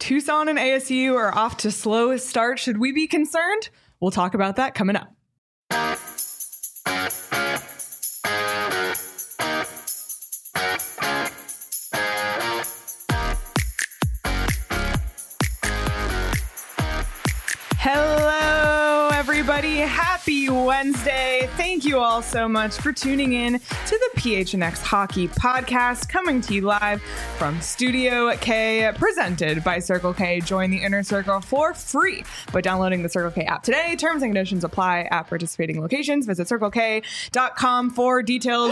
Tucson and ASU are off to slow start. Should we be concerned? We'll talk about that coming up. Hello, everybody. Happy Wednesday. Thank you all so much for tuning in to the PHNX Hockey Podcast, coming to you live from Studio K, presented by Circle K. Join the Inner Circle for free by downloading the Circle K app today. Terms and conditions apply at participating locations. Visit circlek.com for details.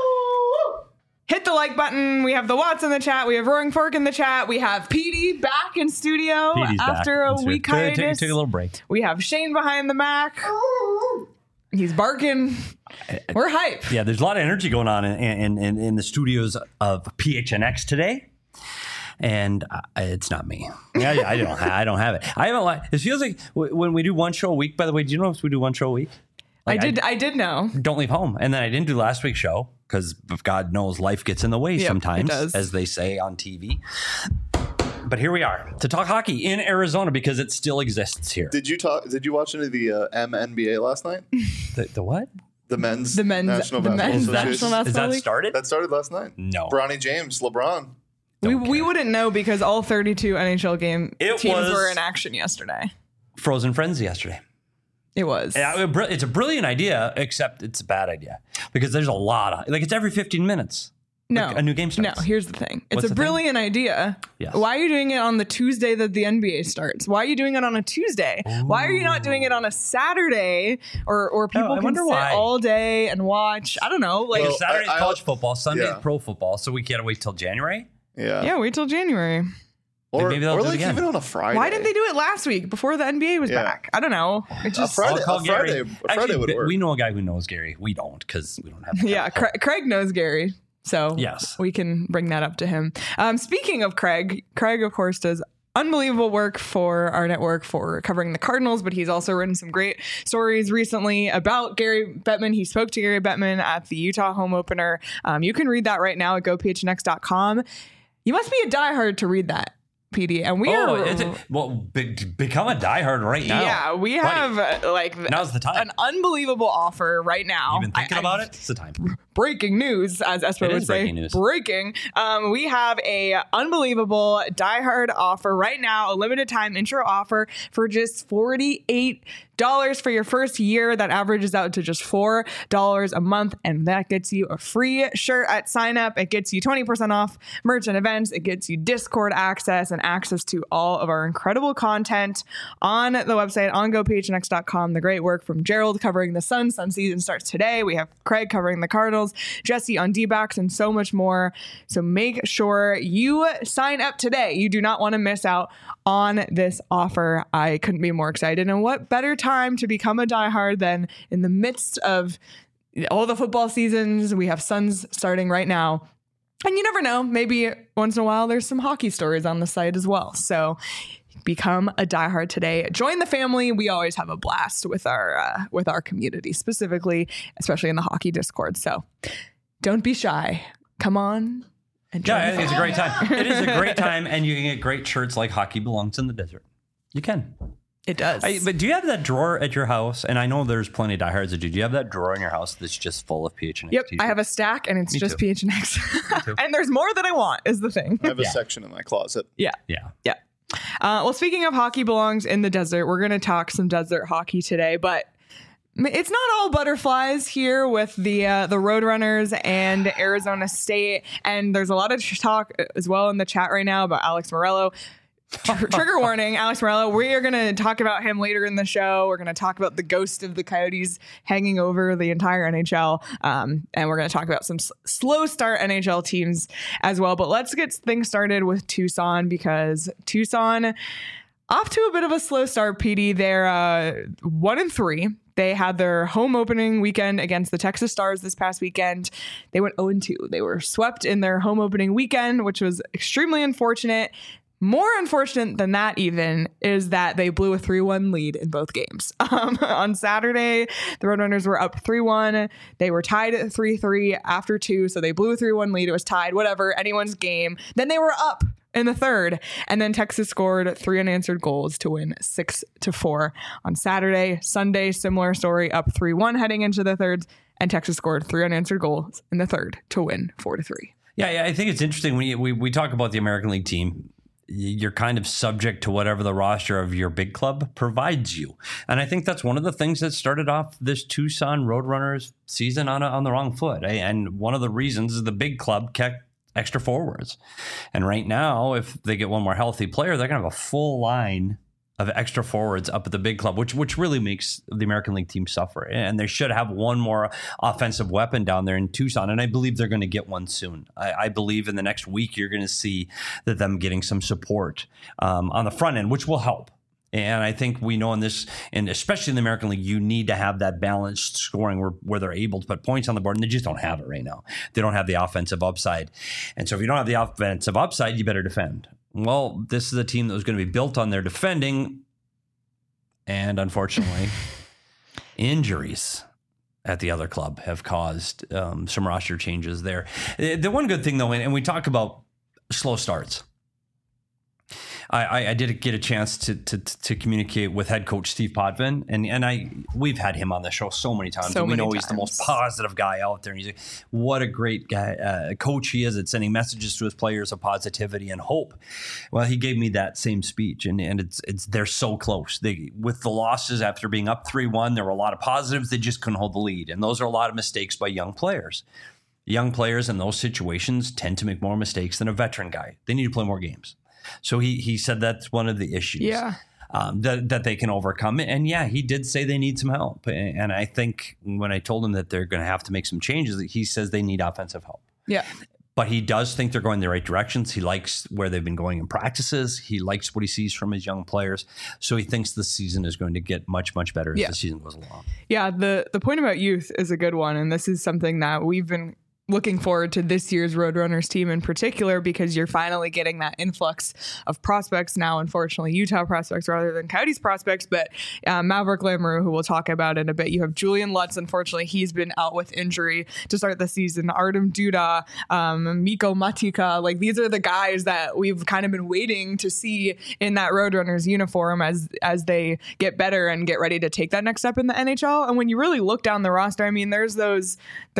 Hit the like button. We have the Watts in the chat. We have Roaring Fork in the chat. We have Petey back in studio after a week hiatus. Take a little break. We have Shane behind the Mac. He's barking. We're hype. Yeah, there's a lot of energy going on in the studios of PHNX today. And it's not me. I don't have it. I haven't. It feels like when we do one show a week. By the way, do you know if we do one show a week? Like I did know. Don't leave home. And then I didn't do last week's show because God knows life gets in the way sometimes, as they say on TV. But here we are to talk hockey in Arizona because it still exists here. Did you watch any of the MNBA last night? The what? The men's National Basketball Association. Is that started? That started last night. No. Bronny James, LeBron. We wouldn't know because all 32 NHL teams were in action yesterday. Frozen Friends yesterday. It was. It's a brilliant idea, except it's a bad idea because there's a lot of it's every 15 minutes. No, a new game starts. No, here's the thing. It's a brilliant idea. Yes. Why are you doing it on the Tuesday that the NBA starts? Why are you doing it on a Tuesday? Ooh. Why are you not doing it on a Saturday or people can sit all day and watch? I don't know. Saturday's college football, Sunday's pro football, so we can't wait till January? Yeah, wait till January. Or even on a Friday. Why didn't they do it last week before the NBA was back? I don't know. It just Friday would work. We know a guy who knows Gary. We don't because we don't have. Yeah, Craig knows Gary. So yes, we can bring that up to him. Speaking of Craig, of course, does unbelievable work for our network for covering the Cardinals, but he's also written some great stories recently about Gary Bettman. He spoke to Gary Bettman at the Utah home opener. You can read that right now at gophnx.com. You must be a diehard to read that, PD. And we become a diehard right now. Yeah, we have now's the time. An unbelievable offer right now. You've been thinking about it? It's the time. Breaking news, as Espo would say. Breaking. We have a unbelievable diehard offer right now, a limited time intro offer for just $48 for your first year. That averages out to just $4 a month, and that gets you a free shirt at sign up. It gets you 20% off merch and events. It gets you Discord access and access to all of our incredible content on the website on gophnx.com. The great work from Gerald covering the Suns. Sun season starts today. We have Craig covering the Cardinals, Jesse on D-backs, and so much more. So make sure you sign up today. You do not want to miss out on this offer. I couldn't be more excited. And what better time to become a diehard than in the midst of all the football seasons? We have Suns starting right now. And you never know, maybe once in a while there's some hockey stories on the site as well. So become a diehard today. Join the family. We always have a blast with our community, specifically, especially in the hockey Discord. So don't be shy. Come on. I think it's a great time. It is a great time, and you can get great shirts like Hockey Belongs in the Desert. You can. It does. But do you have that drawer at your house? And I know there's plenty of diehards that do. Do you have that drawer in your house that's just full of PHNX Yep, t-shirts? I have a stack, and it's just PHNX. And there's more that I want, is the thing. I have a section in my closet. Yeah. Well, speaking of Hockey Belongs in the Desert, we're going to talk some desert hockey today, but it's not all butterflies here with the Roadrunners and Arizona State. And there's a lot of talk as well in the chat right now about Alex Morello. Trigger warning, Alex Morello. We are going to talk about him later in the show. We're going to talk about the ghost of the Coyotes hanging over the entire NHL. And we're going to talk about some slow start NHL teams as well. But let's get things started with Tucson, because Tucson off to a bit of a slow start, PD. They're 1-3. They had their home opening weekend against the Texas Stars this past weekend. They went 0-2. They were swept in their home opening weekend, which was extremely unfortunate. More unfortunate than that even is that they blew a 3-1 lead in both games. On Saturday, the Roadrunners were up 3-1. They were tied at 3-3 after 2, so they blew a 3-1 lead. It was tied, whatever, anyone's game. Then they were up in the third. And then Texas scored 3 unanswered goals to win 6-4 on Saturday. Sunday, similar story, up 3-1 heading into the third. And Texas scored 3 unanswered goals in the third to win 4-3. Yeah, I think it's interesting when we talk about the American League team. You're kind of subject to whatever the roster of your big club provides you. And I think that's one of the things that started off this Tucson Roadrunners season on the wrong foot. And one of the reasons is the big club kept extra forwards. And right now, if they get one more healthy player, they're going to have a full line of extra forwards up at the big club, which really makes the American League team suffer. And they should have one more offensive weapon down there in Tucson. And I believe they're going to get one soon. I believe in the next week, you're going to see that them getting some support on the front end, which will help. And I think we know in this, and especially in the American League, you need to have that balanced scoring where they're able to put points on the board, and they just don't have it right now. They don't have the offensive upside. And so if you don't have the offensive upside, you better defend. Well, this is a team that was going to be built on their defending, and unfortunately, injuries at the other club have caused some roster changes there. The one good thing, though, and we talk about slow starts, I did get a chance to communicate with head coach Steve Potvin, and we've had him on the show so many times. We know he's the most positive guy out there. And he's like, what a great guy, coach he is at sending messages to his players of positivity and hope. Well, he gave me that same speech, and it's they're so close. With the losses after being up 3-1, there were a lot of positives. They just couldn't hold the lead, and those are a lot of mistakes by young players. Young players in those situations tend to make more mistakes than a veteran guy. They need to play more games. So he said that's one of the issues that they can overcome. And yeah, he did say they need some help. And I think when I told him that they're going to have to make some changes, he says they need offensive help. Yeah. But he does think they're going in the right directions. He likes where they've been going in practices. He likes what he sees from his young players. So he thinks the season is going to get much, much better as the season goes along. Yeah, the point about youth is a good one. And this is something that we've been looking forward to this year's Roadrunners team in particular, because you're finally getting that influx of prospects now, unfortunately, Utah prospects rather than Coyotes prospects. But Maverick Lamoureux, who we'll talk about in a bit. You have Julian Lutz. Unfortunately, he's been out with injury to start the season. Artem Duda, Mikko Matika. Like, these are the guys that we've kind of been waiting to see in that Roadrunners uniform as they get better and get ready to take that next step in the NHL. And when you really look down the roster, I mean, there's those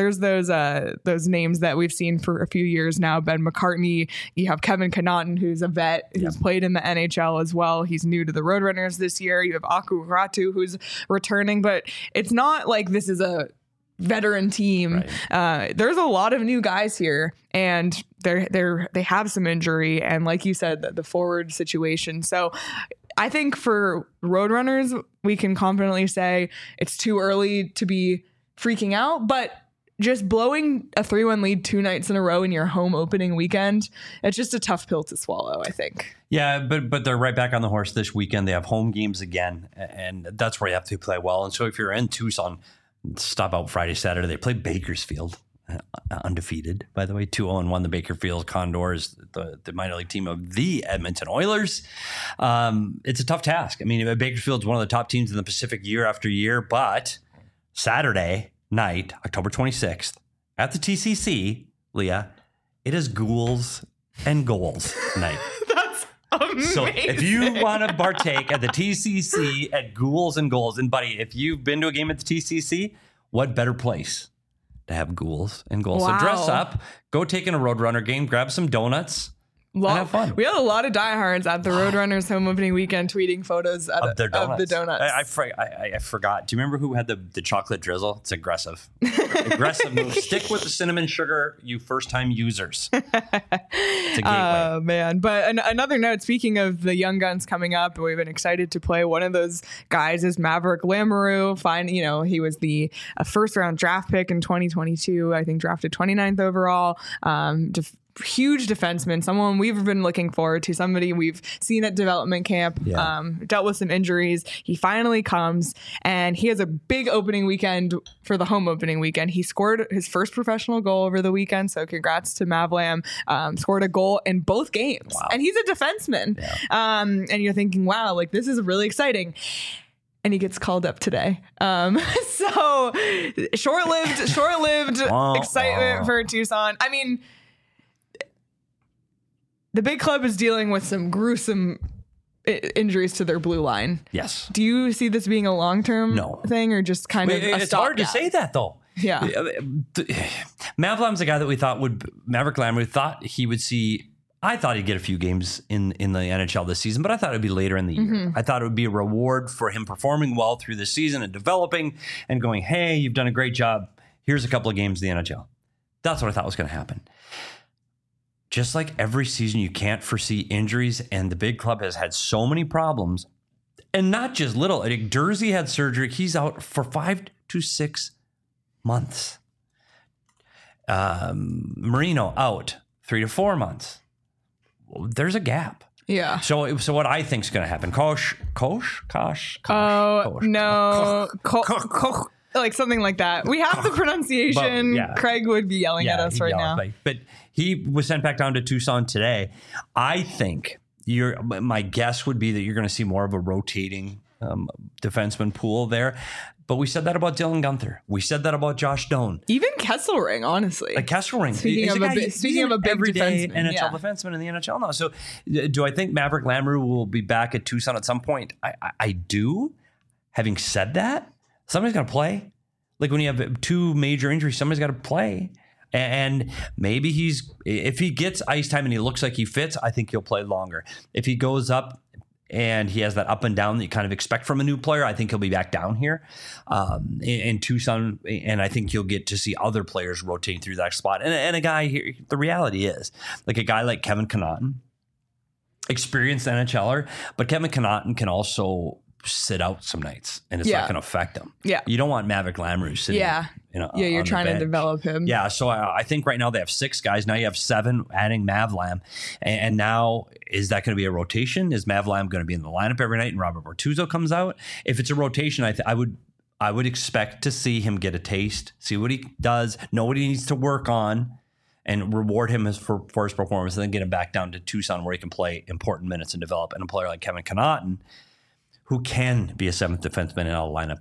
names that we've seen for a few years now. Ben McCartney, you have Kevin Connaughton, who's a vet, who's played in the NHL as well. He's new to the Roadrunners this year. You have Aku Ratu, who's returning, but it's not like this is a veteran team. Right. There's a lot of new guys here, and they have some injury, and like you said, the forward situation. So I think for Roadrunners, we can confidently say it's too early to be freaking out, but just blowing a 3-1 lead 2 nights in a row in your home opening weekend, it's just a tough pill to swallow, I think. Yeah, but they're right back on the horse this weekend. They have home games again, and that's where you have to play well. And so if you're in Tucson, stop out Friday, Saturday. They play Bakersfield, undefeated, by the way, 2-0-1. The Bakersfield Condors, the minor league team of the Edmonton Oilers. It's a tough task. I mean, Bakersfield's one of the top teams in the Pacific year after year, but Saturday night, October 26th, at the TCC, Leah, it is Ghouls and Goals night. That's amazing. So if you want to partake at the TCC at Ghouls and Goals, and buddy, if you've been to a game at the TCC, what better place to have Ghouls and Goals? Wow. So dress up, go take in a Roadrunner game, grab some donuts, and have fun. We had a lot of diehards at the Roadrunners home opening weekend tweeting photos of the donuts. I forgot. Do you remember who had the chocolate drizzle? It's aggressive. Aggressive move. Stick with the cinnamon sugar, you first-time users. It's a gateway. Oh, man. But another note, speaking of the young guns coming up, we've been excited to play. One of those guys is Maverick Lamoureux. He was the first-round draft pick in 2022, I think drafted 29th overall. Huge defenseman, someone we've been looking forward to, somebody we've seen at development camp, dealt with some injuries. He finally comes, and he has a big opening weekend for the home opening weekend. He scored his first professional goal over the weekend, so congrats to Mavlam. Scored a goal in both games, and he's a defenseman. Yeah. And you're thinking, wow, like this is really exciting. And he gets called up today. So short-lived excitement for Tucson. I mean, the big club is dealing with some gruesome injuries to their blue line. Yes. Do you see this being a long-term thing or just kind of a It's hard to say that, though. Yeah. Mav Lam's a guy that Maverick Lamoureux thought he would see. I thought he'd get a few games in the NHL this season, but I thought it would be later in the year. I thought it would be a reward for him performing well through the season and developing and going, hey, you've done a great job. Here's a couple of games in the NHL. That's what I thought was going to happen. Just like every season, you can't foresee injuries, and the big club has had so many problems, and not just little. I think Durzi had surgery. He's out for 5 to 6 months. Marino out 3 to 4 months. There's a gap. Yeah. So what I think is going to happen? Kosh. No. Like something like that. We have the pronunciation. But, Craig would be yelling at us right now. But he was sent back down to Tucson today. I think my guess would be that you're going to see more of a rotating defenseman pool there. But we said that about Dylan Guenther. We said that about Josh Doan. Even Kesselring, honestly. Kesselring. Speaking of a big everyday defenseman, NHL defenseman in the NHL now. So do I think Maverick Lamoureux will be back at Tucson at some point? I do. Having said that, somebody's got to play. Like when you have 2 major injuries, somebody's got to play. And maybe if he gets ice time and he looks like he fits, I think he'll play longer. If he goes up and he has that up and down that you kind of expect from a new player, I think he'll be back down here in Tucson. And I think you'll get to see other players rotating through that spot. And a guy here, the reality is, like a guy like Kevin Connauton, experienced NHLer, but Kevin Connauton can also sit out some nights and it's not going to affect him. Yeah. You don't want Maverick Lamoureux sitting you're trying to develop him. Yeah, so I think right now they have 6 guys. Now you have 7 adding Mav Lam. And now is that going to be a rotation? Is Mav Lam going to be in the lineup every night and Robert Bortuzzo comes out? If it's a rotation, I would expect to see him get a taste, see what he does, know what he needs to work on, and reward him for his performance, and then get him back down to Tucson where he can play important minutes and develop. And a player like Kevin Connauton, who can be a 7th defenseman in our lineup,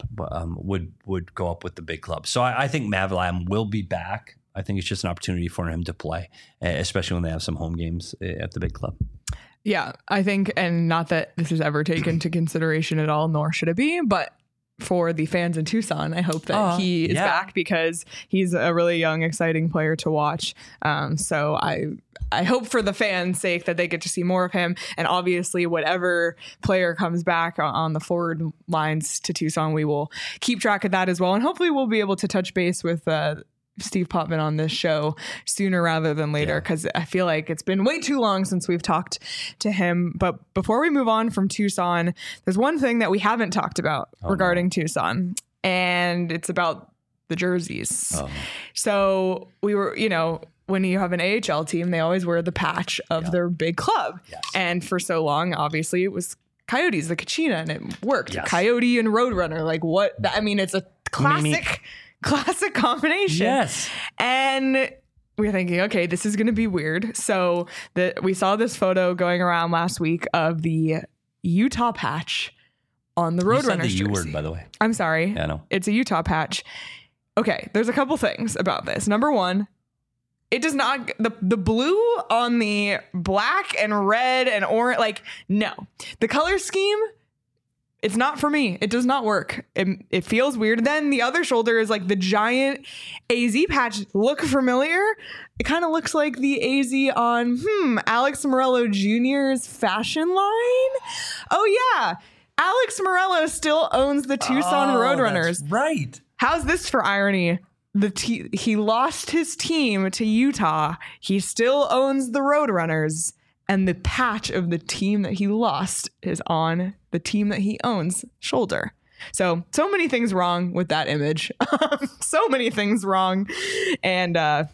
would go up with the big club. So I think Mav Lam will be back. I think it's just an opportunity for him to play, especially when they have some home games at the big club. Yeah, I think, and not that this is ever taken into consideration at all, nor should it be, but for the fans in Tucson, I hope that he is back because he's a really young, exciting player to watch. So I hope for the fans' sake that they get to see more of him. And obviously, whatever player comes back on the forward lines to Tucson, we will keep track of that as well. And hopefully we'll be able to touch base with Steve Potvin on this show sooner rather than later, because I feel like it's been way too long since we've talked to him. But before we move on from Tucson, there's one thing that we haven't talked about regarding Tucson, and it's about the jerseys. So we were, when you have an AHL team, they always wear the patch of their big club. Yes. And for so long, obviously, it was Coyotes, the Kachina, and it worked. Yes. Coyote and Roadrunner. Like what? I mean, it's a classic combination. Yes. And we're thinking, okay, this is going to be weird. So we saw this photo going around last week of the Utah patch on the Roadrunners jersey. You said the U word, by the way. I'm sorry. Yeah, I know. It's a Utah patch. Okay, there's a couple things about this. Number one, it does not, the blue on the black and red and orange, like, no. The color scheme, it's not for me. It does not work. It feels weird. Then the other shoulder is like the giant AZ patch. Look familiar? It kind of looks like the AZ on Alex Morello Jr.'s fashion line. Oh yeah, Alex Morello still owns the Tucson Roadrunners. That's right. How's this for irony? He lost his team to Utah. He still owns the Roadrunners. And the patch of the team that he lost is on the team that he owns shoulder. So many things wrong with that image. So many things wrong. And that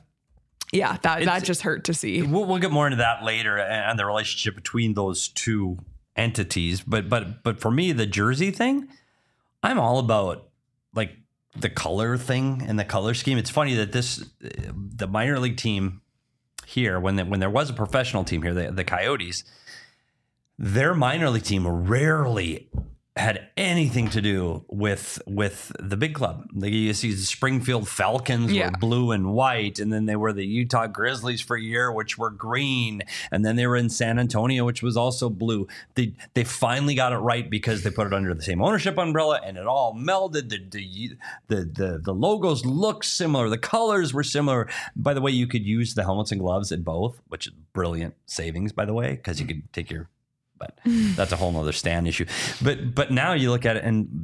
just hurt to see. We'll get more into that later and the relationship between those two entities. But for me, the jersey thing, I'm all about like the color thing and the color scheme. It's funny that the minor league team here, when there was a professional team here, the Coyotes, their minor league team rarely had anything to do with the big club. Like you see the Springfield Falcons were blue and white, and then they were the Utah Grizzlies for a year, which were green, and then they were in San Antonio, which was also blue. They finally got it right because they put it under the same ownership umbrella, and it all melded. The logos looked similar, the colors were similar. By the way, you could use the helmets and gloves at both, which is brilliant savings, by the way, because you could take your. But that's a whole nother Stan issue. But now you look at it and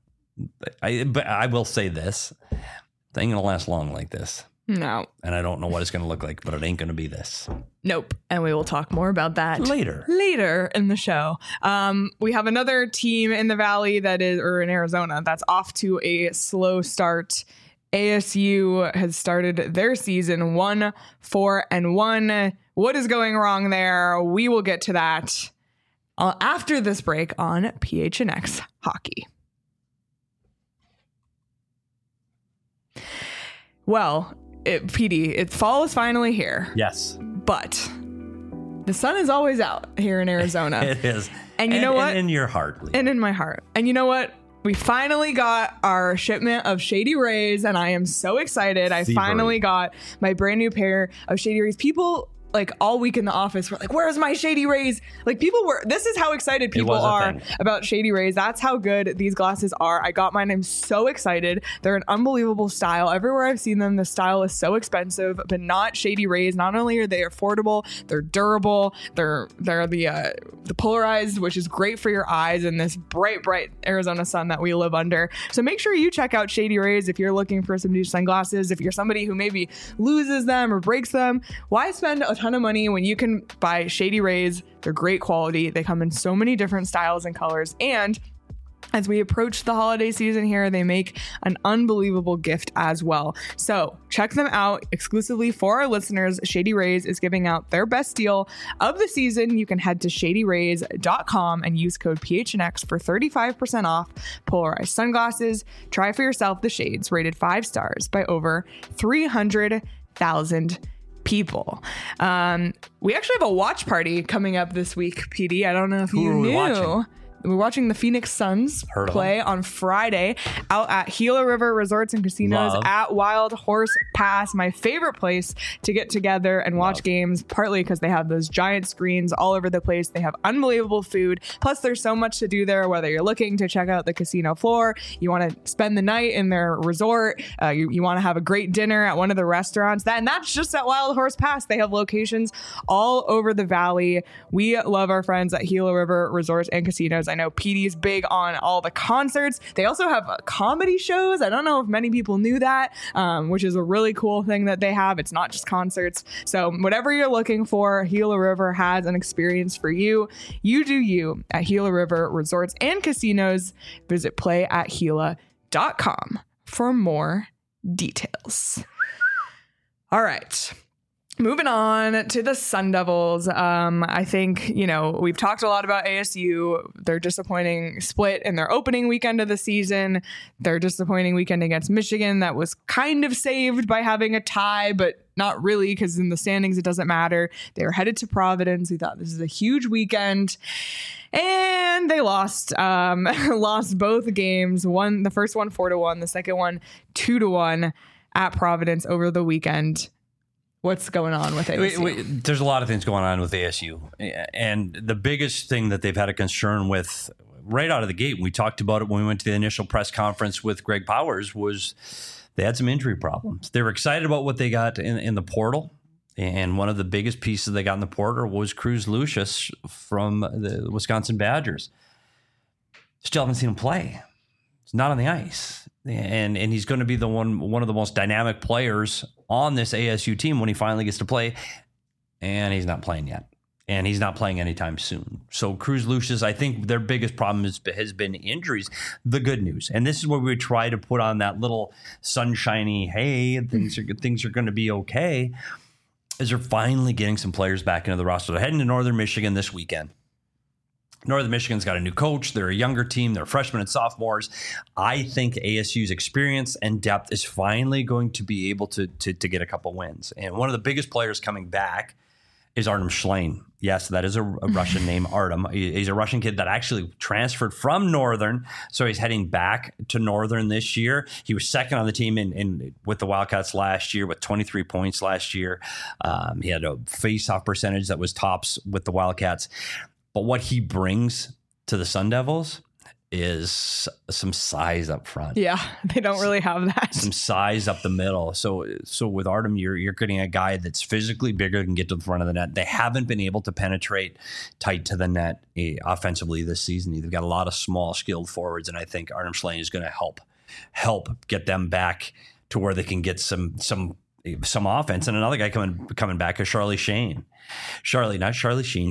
I will say this. It ain't going to last long like this. No. And I don't know what it's going to look like, but it ain't going to be this. Nope. And we will talk more about that later in the show. We have another team in the Valley or in Arizona that's off to a slow start. ASU has started their season 1-4-1. What is going wrong there? We will get to that after this break on PHNX Hockey. Well, PD, fall is finally here. Yes. But the sun is always out here in Arizona. It is. And you know what? And in your heart. Lee. And in my heart. And you know what? We finally got our shipment of Shady Rays, and I am so excited. I finally got my brand new pair of Shady Rays. People... like all week in the office, we're like, where's my Shady Rays? Like this is how excited people are about Shady Rays. That's how good these glasses are. I got mine. I'm so excited. They're an unbelievable style. Everywhere I've seen them, the style is so expensive, but not Shady Rays. Not only are they affordable, they're durable. They're the polarized, which is great for your eyes in this bright Arizona sun that we live under. So make sure you check out Shady Rays if you're looking for some new sunglasses. If you're somebody who maybe loses them or breaks them, why spend a ton of money when you can buy Shady Rays? They're great quality. They come in so many different styles and colors, and as we approach the holiday season here, they make an unbelievable gift as well. So check them out exclusively for our listeners. Shady Rays is giving out their best deal of the season. You can head to shadyrays.com and use code PHNX for 35% off polarized sunglasses. Try for yourself the shades rated 5 stars by over 300,000 people. We actually have a watch party coming up this week, PD. I don't know if you knew. We're watching the Phoenix Suns play on Friday out at Gila River Resorts and Casinos at Wild Horse Pass, my favorite place to get together and watch games, partly because they have those giant screens all over the place. They have unbelievable food. Plus, there's so much to do there, whether you're looking to check out the casino floor, you want to spend the night in their resort, you want to have a great dinner at one of the restaurants. And that's just at Wild Horse Pass. They have locations all over the Valley. We love our friends at Gila River Resorts and Casinos. I know PD's big on all the concerts. They also have comedy shows. I don't know if many people knew that, which is a really cool thing that they have. It's not just concerts. So whatever you're looking for, Gila River has an experience for you. You do you at Gila River Resorts and Casinos. Visit playatgila.com for more details. All right. Moving on to the Sun Devils. I think, we've talked a lot about ASU. Their disappointing split in their opening weekend of the season. Their disappointing weekend against Michigan that was kind of saved by having a tie, but not really, because in the standings, it doesn't matter. They were headed to Providence. We thought this is a huge weekend. And they lost. Lost both games. The first one 4-1, the second one 2-1 at Providence over the weekend. What's going on with ASU? There's a lot of things going on with ASU. And the biggest thing that they've had a concern with right out of the gate, we talked about it when we went to the initial press conference with Greg Powers, was they had some injury problems. They were excited about what they got in the portal. And one of the biggest pieces they got in the portal was Cruz Lucius from the Wisconsin Badgers. Still haven't seen him play. He's not on the ice. And he's going to be one of the most dynamic players on this ASU team when he finally gets to play. And he's not playing yet. And he's not playing anytime soon. So Cruz Lucius, I think their biggest problem has been injuries. The good news, and this is where we try to put on that little sunshiny, hey, things are going to be okay, is they're finally getting some players back into the roster. They're heading to Northern Michigan this weekend. Northern Michigan's got a new coach. They're a younger team. They're freshmen and sophomores. I think ASU's experience and depth is finally going to be able to get a couple wins. And one of the biggest players coming back is Artem Schlane. Yes, that is a Russian name, Artem. He's a Russian kid that actually transferred from Northern, so he's heading back to Northern this year. He was second on the team in with the Wildcats last year with 23 points last year. He had a face-off percentage that was tops with the Wildcats. But what he brings to the Sun Devils is some size up front. Yeah, they don't really have that. Some size up the middle. So with Artem, you're getting a guy that's physically bigger, can get to the front of the net. They haven't been able to penetrate tight to the net offensively this season. They've got a lot of small, skilled forwards, and I think Artem Schlane is going to help get them back to where they can get some offense. And another guy coming back is Charlie Shane. Charlie Shane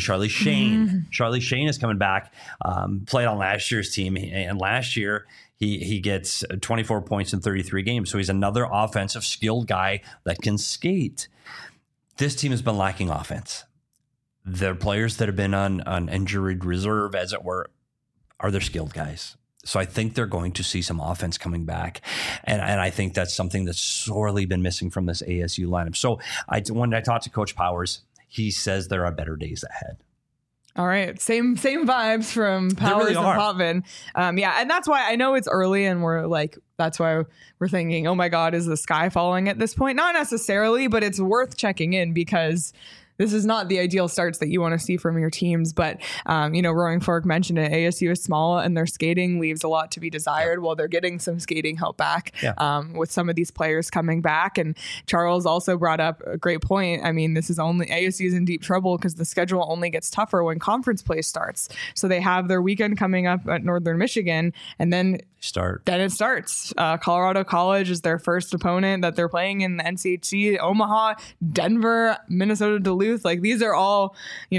is coming back, played on last year's team. And last year he gets 24 points in 33 games. So he's another offensive skilled guy that can skate. This team has been lacking offense. The players that have been on injured reserve, as it were, are their skilled guys. So I think they're going to see some offense coming back. And I think that's something that's sorely been missing from this ASU lineup. So when I talked to Coach Powers, he says there are better days ahead. All right. Same vibes from Powers really and Potvin. Yeah. And that's why I know it's early and that's why we're thinking, oh my God, is the sky falling at this point? Not necessarily, but it's worth checking in because this is not the ideal starts that you want to see from your teams. But, Roaring Fork mentioned it. ASU is small and their skating leaves a lot to be desired while they're getting some skating help back with some of these players coming back. And Charles also brought up a great point. I mean, ASU is in deep trouble because the schedule only gets tougher when conference play starts. So they have their weekend coming up at Northern Michigan and then it starts. Colorado College is their first opponent that they're playing in the NCHC. Omaha, Denver, Minnesota Duluth. These are all,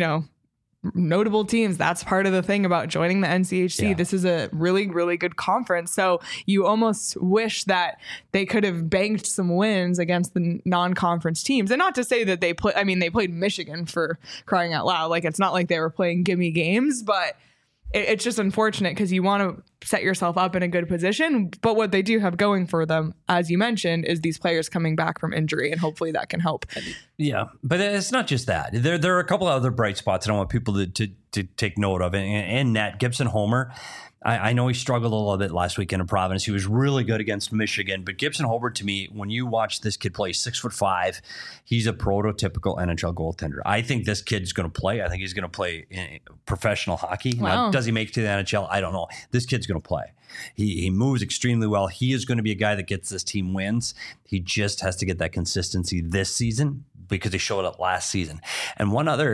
notable teams. That's part of the thing about joining the NCHC. Yeah. This is a really, really good conference. So you almost wish that they could have banked some wins against the non-conference teams. And not to say that they played Michigan, for crying out loud. It's not like they were playing gimme games, but it's just unfortunate because you want to set yourself up in a good position. But what they do have going for them, as you mentioned, is these players coming back from injury, and hopefully that can help. Yeah, but it's not just that. There are a couple of other bright spots that I want people to take note of. And net, Gibson Homer, I know he struggled a little bit last week in Providence. He was really good against Michigan. But Gibson Homer, to me, when you watch this kid play, 6'5", he's a prototypical NHL goaltender. I think this kid's going to play. I think he's going to play in professional hockey. Wow. Now, does he make it to the NHL? I don't know. This kid's going to play. He moves extremely well. He is going to be a guy that gets this team wins. He just has to get that consistency this season because he showed up last season. And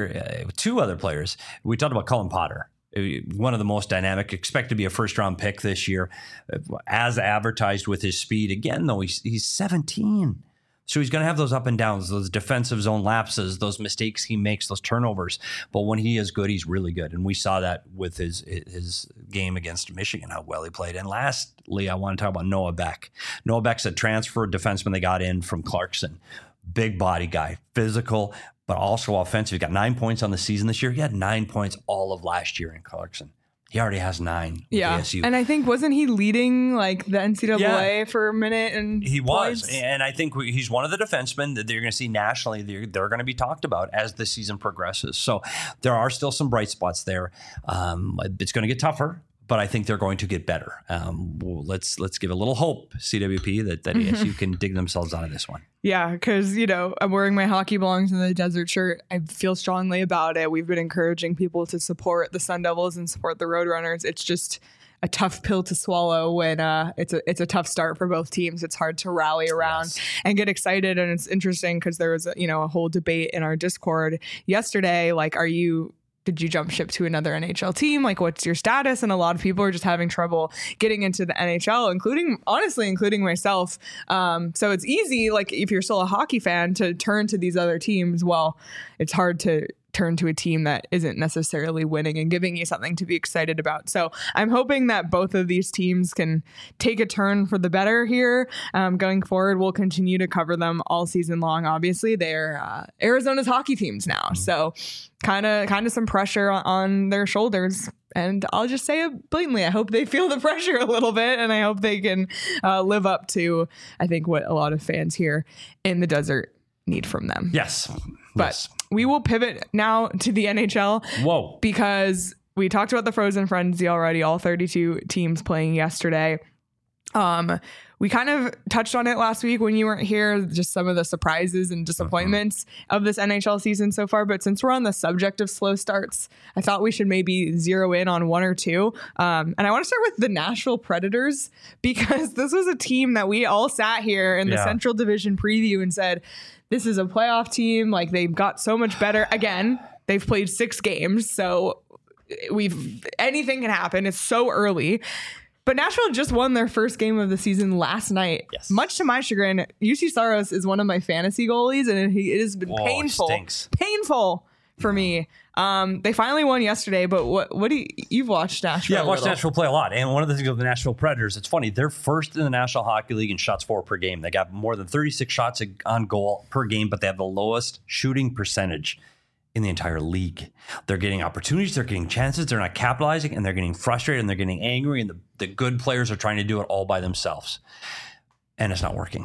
two other players. We talked about Cullen Potter. One of the most dynamic, expect to be a first-round pick this year, as advertised with his speed. Again, though, he's 17. So he's going to have those up and downs, those defensive zone lapses, those mistakes he makes, those turnovers. But when he is good, he's really good. And we saw that with his game against Michigan, how well he played. And lastly, I want to talk about Noah Beck. Noah Beck's a transfer defenseman they got in from Clarkson. Big body guy, physical, but also offensive. He got 9 points on the season this year. He had 9 points all of last year in Clarkson. He already has 9. Yeah. ASU. And I think, wasn't he leading the NCAA for a minute? And he was. And I think he's one of the defensemen that you're going to see nationally. They're going to be talked about as the season progresses. So there are still some bright spots there. It's going to get tougher, but I think they're going to get better. Let's give a little hope, CWP, that ASU can dig themselves out of this one. Yeah, because, I'm wearing my Hockey Belongs in the Desert shirt. I feel strongly about it. We've been encouraging people to support the Sun Devils and support the Roadrunners. It's just a tough pill to swallow when it's a tough start for both teams. It's hard to rally around and get excited. And it's interesting because there was a whole debate in our Discord yesterday. Did you jump ship to another NHL team? What's your status? And a lot of people are just having trouble getting into the NHL, including myself. So it's easy, if you're still a hockey fan, to turn to these other teams. Well, it's hard to turn to a team that isn't necessarily winning and giving you something to be excited about. So I'm hoping that both of these teams can take a turn for the better here. Going forward, we'll continue to cover them all season long. Obviously, they're Arizona's hockey teams now. So kind of some pressure on their shoulders. And I'll just say it blatantly. I hope they feel the pressure a little bit, and I hope they can live up to, I think, what a lot of fans here in the desert need from them. Yes. But we will pivot now to the NHL. Whoa. Because we talked about the Frozen Frenzy already, all 32 teams playing yesterday. We kind of touched on it last week when you weren't here, just some of the surprises and disappointments of this NHL season so far. But since we're on the subject of slow starts, I thought we should maybe zero in on one or two. And I want to start with the Nashville Predators, because this was a team that we all sat here in the Central Division preview and said, this is a playoff team. Like, they've got so much better. Again, they've played 6 games, so anything can happen. It's so early. But Nashville just won their first game of the season last night. Yes. Much to my chagrin, UC Saros is one of my fantasy goalies, and it has been painful for me. They finally won yesterday, but what do you've watched Nashville? Yeah, I watched Nashville play a lot. And one of the things with the Nashville Predators, it's funny, they're first in the National Hockey League in shots for per game. They got more than 36 shots on goal per game, but they have the lowest shooting percentage in the entire league. They're getting opportunities, they're getting chances, they're not capitalizing, and they're getting frustrated, and they're getting angry, and the good players are trying to do it all by themselves. And it's not working.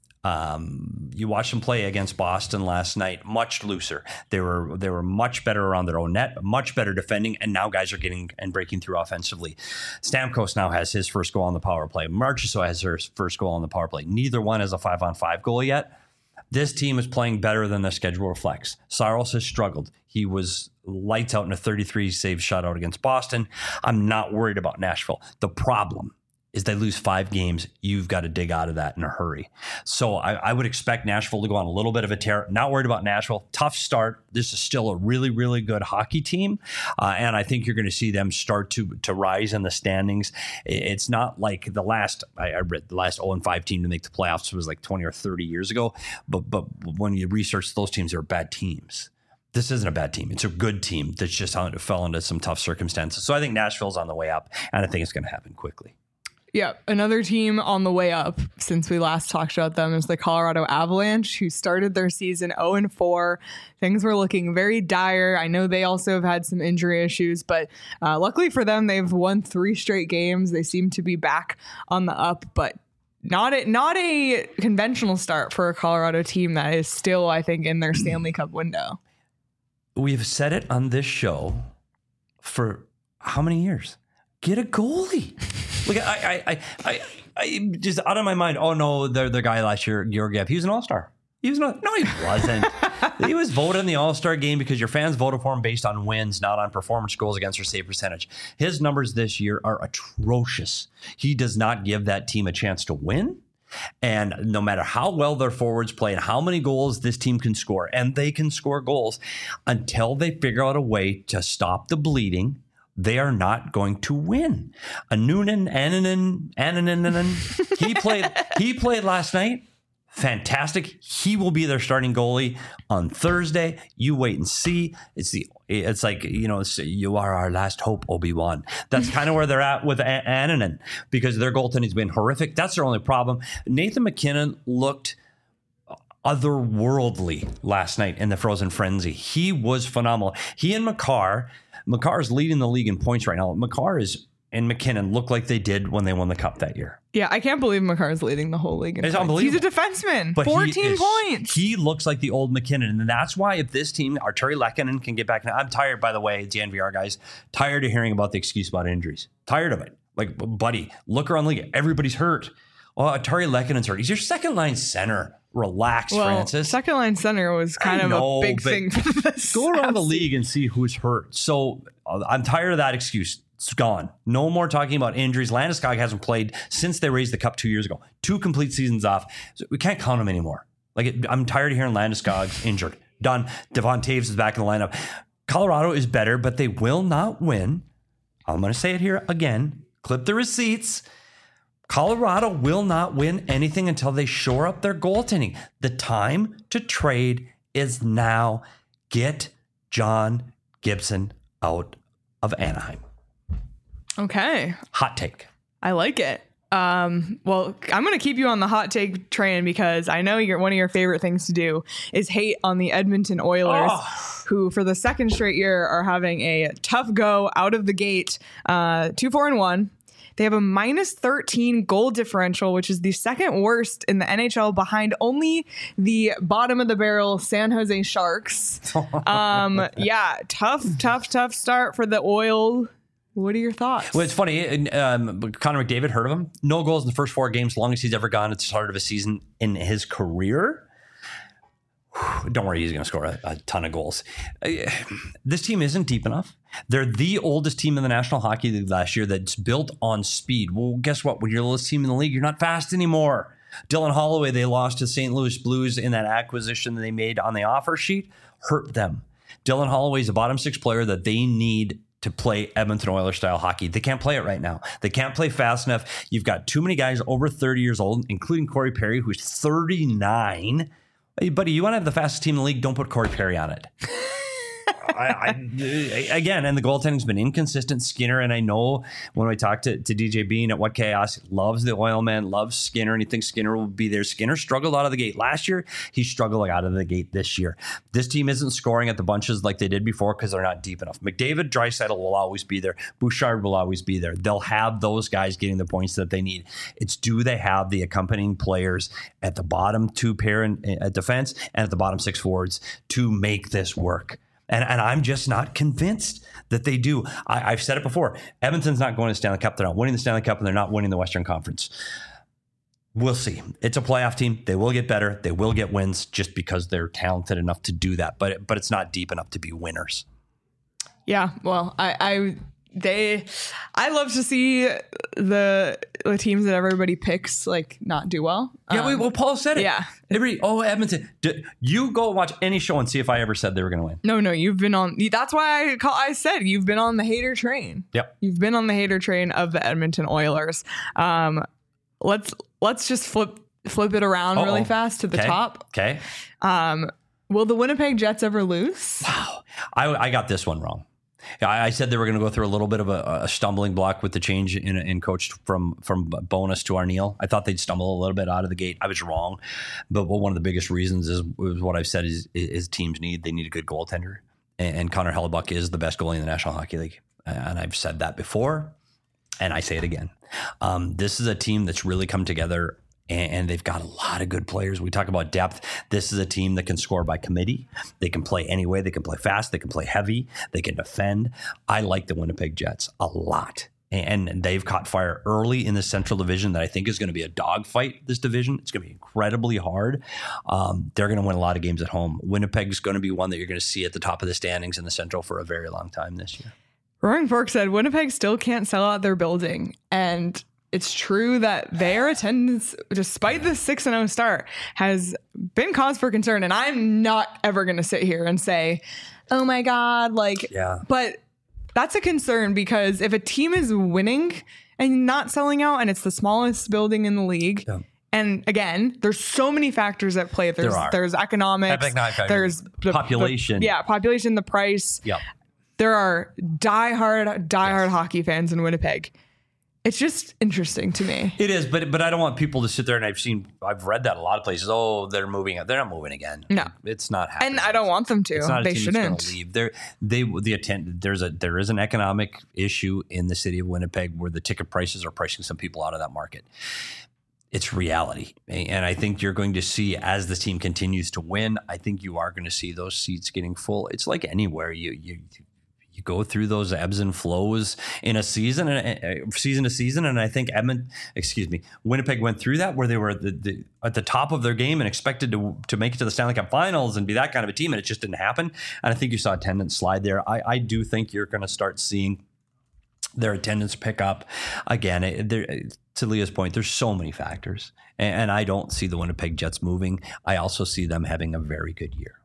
You watched them play against Boston last night, much looser. They were much better around their own net, much better defending, and now guys are getting and breaking through offensively. Stamkos now has his first goal on the power play. Marchessault has her first goal on the power play. Neither one has a 5-on-5 goal yet. This team is playing better than their schedule reflects. Saros has struggled. He was lights out in a 33-save shutout against Boston. I'm not worried about Nashville. The problem is they lose 5 games. You've got to dig out of that in a hurry. So I would expect Nashville to go on a little bit of a tear. Not worried about Nashville. Tough start. This is still a really, really good hockey team. And I think you're going to see them start to rise in the standings. It's not like the last, I read the last 0-5 team to make the playoffs was like 20 or 30 years ago. But when you research those teams, they're bad teams. This isn't a bad team. It's a good team that's just fell into some tough circumstances. So I think Nashville's on the way up, and I think it's going to happen quickly. Yeah, another team on the way up since we last talked about them is the Colorado Avalanche, who started their season 0-4. Things were looking very dire. I know they also have had some injury issues, but luckily for them, they've won 3 straight games. They seem to be back on the up, but not a conventional start for a Colorado team that is still, I think, in their Stanley Cup window. We've said it on this show for how many years? Get a goalie. Like I just out of my mind. Oh no, the guy last year, Georgiev, he was an all-star. He wasn't. He was voted in the all-star game because your fans voted for him based on wins, not on performance, goals against, or save percentage. His numbers this year are atrocious. He does not give that team a chance to win. And no matter how well their forwards play and how many goals this team can score, and they can score goals, until they figure out a way to stop the bleeding, they are not going to win. Annunen, he played last night. Fantastic. He will be their starting goalie on Thursday. You wait and see. It's like, you are our last hope, Obi-Wan. That's kind of where they're at with Annunen, because their goaltending's been horrific. That's their only problem. Nathan MacKinnon looked otherworldly last night in the Frozen Frenzy. He was phenomenal. He and Makar's leading the league in points right now. Makar and MacKinnon look like they did when they won the Cup that year. Yeah, I can't believe Makar's leading the whole league in points. Unbelievable. He's a defenseman. But 14 points. He looks like the old MacKinnon. And that's why if this team, Arturi Lehkonen, can get back. Now, I'm tired, by the way, DNVR guys, tired of hearing about the excuse about injuries. Tired of it. Like, buddy, look around the league. Everybody's hurt. Oh, Arturi Lekkonen's hurt. He's your second line center. Relax, Francis. Second line center was kind of a big thing for this. Go around the league and see who's hurt. So I'm tired of that excuse. It's gone. No more talking about injuries. Landeskog hasn't played since they raised the Cup 2 years ago. 2 complete seasons off. So we can't count him anymore. I'm tired of hearing Landeskog injured. Done. Devon Toews is back in the lineup. Colorado is better, but they will not win. I'm going to say it here again. Clip the receipts. Colorado will not win anything until they shore up their goaltending. The time to trade is now. Get John Gibson out of Anaheim. Okay. Hot take. I like it. Well, I'm going to keep you on the hot take train because I know one of your favorite things to do is hate on the Edmonton Oilers, who for the second straight year are having a tough go out of the gate, 2-4-1. They have a -13 goal differential, which is the second worst in the NHL behind only the bottom of the barrel San Jose Sharks. Tough start for the Oil. What are your thoughts? Well, it's funny. Connor McDavid, heard of him? No goals in the first 4 games, longest he's ever gone at the start of a season in his career. Don't worry, he's going to score a ton of goals. This team isn't deep enough. They're the oldest team in the National Hockey League last year that's built on speed. Well, guess what? When you're the oldest team in the league, you're not fast anymore. Dylan Holloway, they lost to St. Louis Blues in that acquisition that they made on the offer sheet, hurt them. Dylan Holloway is a bottom 6 player that they need to play Edmonton Oilers style hockey. They can't play it right now. They can't play fast enough. You've got too many guys over 30 years old, including Corey Perry, who's 39. Hey, buddy, you want to have the fastest team in the league? Don't put Corey Perry on it. Again, and the goaltending's been inconsistent. Skinner, and I know when I talked to DJ Bean at What Chaos, loves the Oil Man, loves Skinner, and he thinks Skinner will be there. Skinner struggled out of the gate last year. He's struggling out of the gate this year. This team isn't scoring at the bunches like they did before because they're not deep enough. McDavid, Draisaitl will always be there. Bouchard will always be there. They'll have those guys getting the points that they need. It's do they have the accompanying players at the bottom 2 pair at defense and at the bottom 6 forwards to make this work? And I'm just not convinced that they do. I've said it before. Edmonton's not going to the Stanley Cup. They're not winning the Stanley Cup, and they're not winning the Western Conference. We'll see. It's a playoff team. They will get better. They will get wins just because they're talented enough to do that. But it's not deep enough to be winners. Yeah, well, I love to see the teams that everybody picks like not do well. Yeah, well, Paul said it. Yeah. Edmonton. You go watch any show and see if I ever said they were going to win. No, you've been on. That's why I said you've been on the hater train. Yep. You've been on the hater train of the Edmonton Oilers. Let's just flip it around really fast to the top. Okay. Will the Winnipeg Jets ever lose? Wow. I got this one wrong. I said they were going to go through a little bit of a stumbling block with the change in coach from Bowness to Arniel. I thought they'd stumble a little bit out of the gate. I was wrong. But one of the biggest reasons is what I've said is teams need a good goaltender. And Connor Hellebuyck is the best goalie in the National Hockey League. And I've said that before, and I say it again. This is a team that's really come together, and they've got a lot of good players. We talk about depth. This is a team that can score by committee. They can play any way. They can play fast. They can play heavy. They can defend. I like the Winnipeg Jets a lot. And they've caught fire early in the Central Division that I think is going to be a dogfight, this division. It's going to be incredibly hard. They're going to win a lot of games at home. Winnipeg's going to be one that you're going to see at the top of the standings in the Central for a very long time this year. Roaring Fork said Winnipeg still can't sell out their building. And it's true that their attendance, despite the 6-0 start, has been cause for concern. And I'm not ever going to sit here and say, oh my God, but that's a concern because if a team is winning and not selling out and it's the smallest building in the league, and again, there's so many factors at play. There's economics, there's the population. Population, the price. Yep. There are diehard hockey fans in Winnipeg. It's just interesting to me. It is, but I don't want people to sit there, and I've read that a lot of places. Oh, they're moving. They're not moving again. No, it's not happening. And I don't want them to. It's not they shouldn't leave. There is an economic issue in the city of Winnipeg where the ticket prices are pricing some people out of that market. It's reality, and I think you're going to see as the team continues to win. I think you are going to see those seats getting full. It's like anywhere you go through those ebbs and flows in a season to season. And I think Winnipeg went through that where they were at the top of their game and expected to make it to the Stanley Cup Finals and be that kind of a team. And it just didn't happen. And I think you saw attendance slide there. I do think you're going to start seeing their attendance pick up again. To Leah's point, there's so many factors. And I don't see the Winnipeg Jets moving. I also see them having a very good year.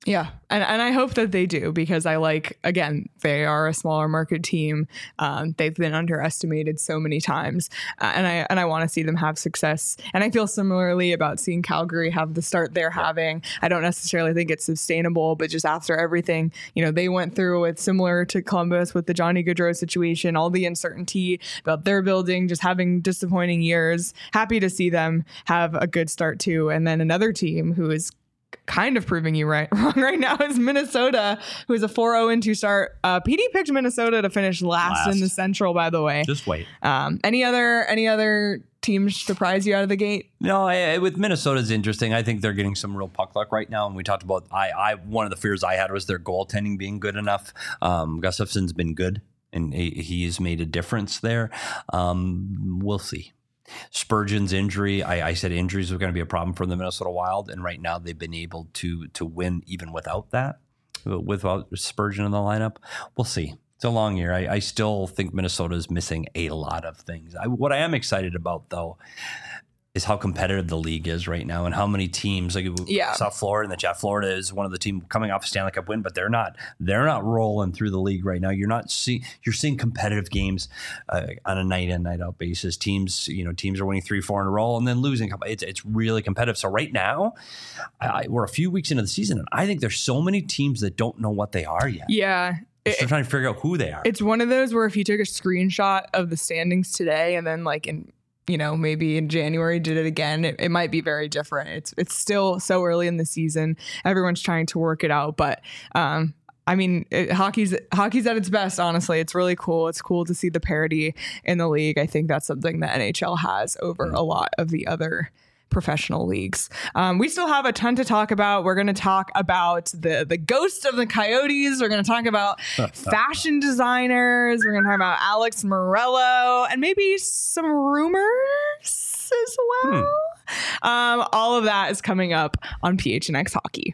Yeah. And I hope that they do, because they are a smaller market team. They've been underestimated so many times. And I want to see them have success. And I feel similarly about seeing Calgary have the start they're having. I don't necessarily think it's sustainable, but just after everything, they went through, it's similar to Columbus with the Johnny Gaudreau situation, all the uncertainty about their building, just having disappointing years. Happy to see them have a good start too. And then another team who is kind of proving you wrong right now is Minnesota, who is a 4-0-2 start. PD picked Minnesota to finish last in the Central, by the way. Just wait. Any other teams surprise you out of the gate? No, with Minnesota's interesting. I think they're getting some real puck luck right now. And we talked about, one of the fears I had was their goaltending being good enough. Gustafsson's been good, and he's made a difference there. We'll see. Spurgeon's injury, I said injuries were going to be a problem for the Minnesota Wild, and right now they've been able to win even without that, without Spurgeon in the lineup. We'll see. It's a long year. I still think Minnesota is missing a lot of things. What I am excited about, though, is how competitive the league is right now, and how many teams, South Florida and the Chat. Florida is one of the teams coming off a Stanley Cup win, but they're not rolling through the league right now. You're seeing competitive games on a night in, night out basis. Teams are winning 3-4 in a row and then losing. It's really competitive. So right now, we're a few weeks into the season, and I think there's so many teams that don't know what they are yet. Yeah. They're trying to figure out who they are. It's one of those where if you took a screenshot of the standings today and then maybe in January did it again, it might be very different. It's still so early in the season. Everyone's trying to work it out. But hockey's at its best, honestly. It's really cool. It's cool to see the parity in the league. I think that's something that NHL has over a lot of the other professional leagues. We still have a ton to talk about. We're going to talk about the ghost of the Coyotes. We're going to talk about fashion designers. We're going to talk about Alex Morello and maybe some rumors as well. All of that is coming up on PHNX Hockey.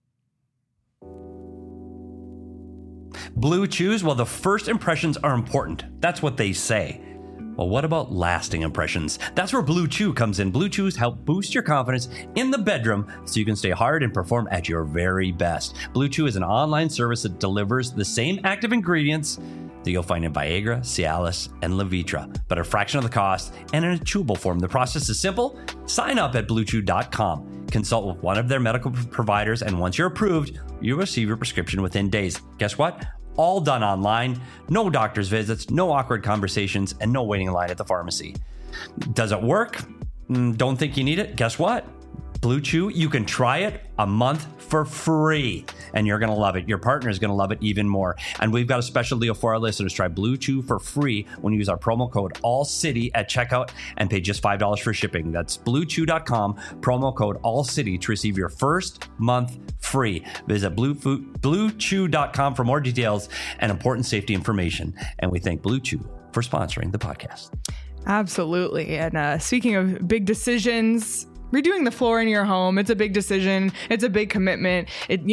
Blue Chews, well, the first impressions are important. That's what they say. Well, what about lasting impressions? That's where Blue Chew comes in. Blue Chews help boost your confidence in the bedroom so you can stay hard and perform at your very best. Blue Chew is an online service that delivers the same active ingredients that you'll find in Viagra, Cialis, and Levitra, but a fraction of the cost and in a chewable form. The process is simple. Sign up at BlueChew.com. Consult with one of their medical providers, and once you're approved, you'll receive your prescription within days. Guess what? All done online, no doctor's visits, no awkward conversations, and no waiting in line at the pharmacy. Does it work? Don't think you need it? Guess what? Blue Chew, you can try it a month for free, and you're going to love it. Your partner is going to love it even more. And we've got a special deal for our listeners. Try Blue Chew for free when you use our promo code ALLCITY at checkout and pay just $5 for shipping. That's BlueChew.com, promo code ALLCITY to receive your first month free. Visit BlueChew.com for more details and important safety information. And we thank Blue Chew for sponsoring the podcast. Absolutely. And speaking of big decisions, redoing the floor in your home, it's a big decision. It's a big commitment.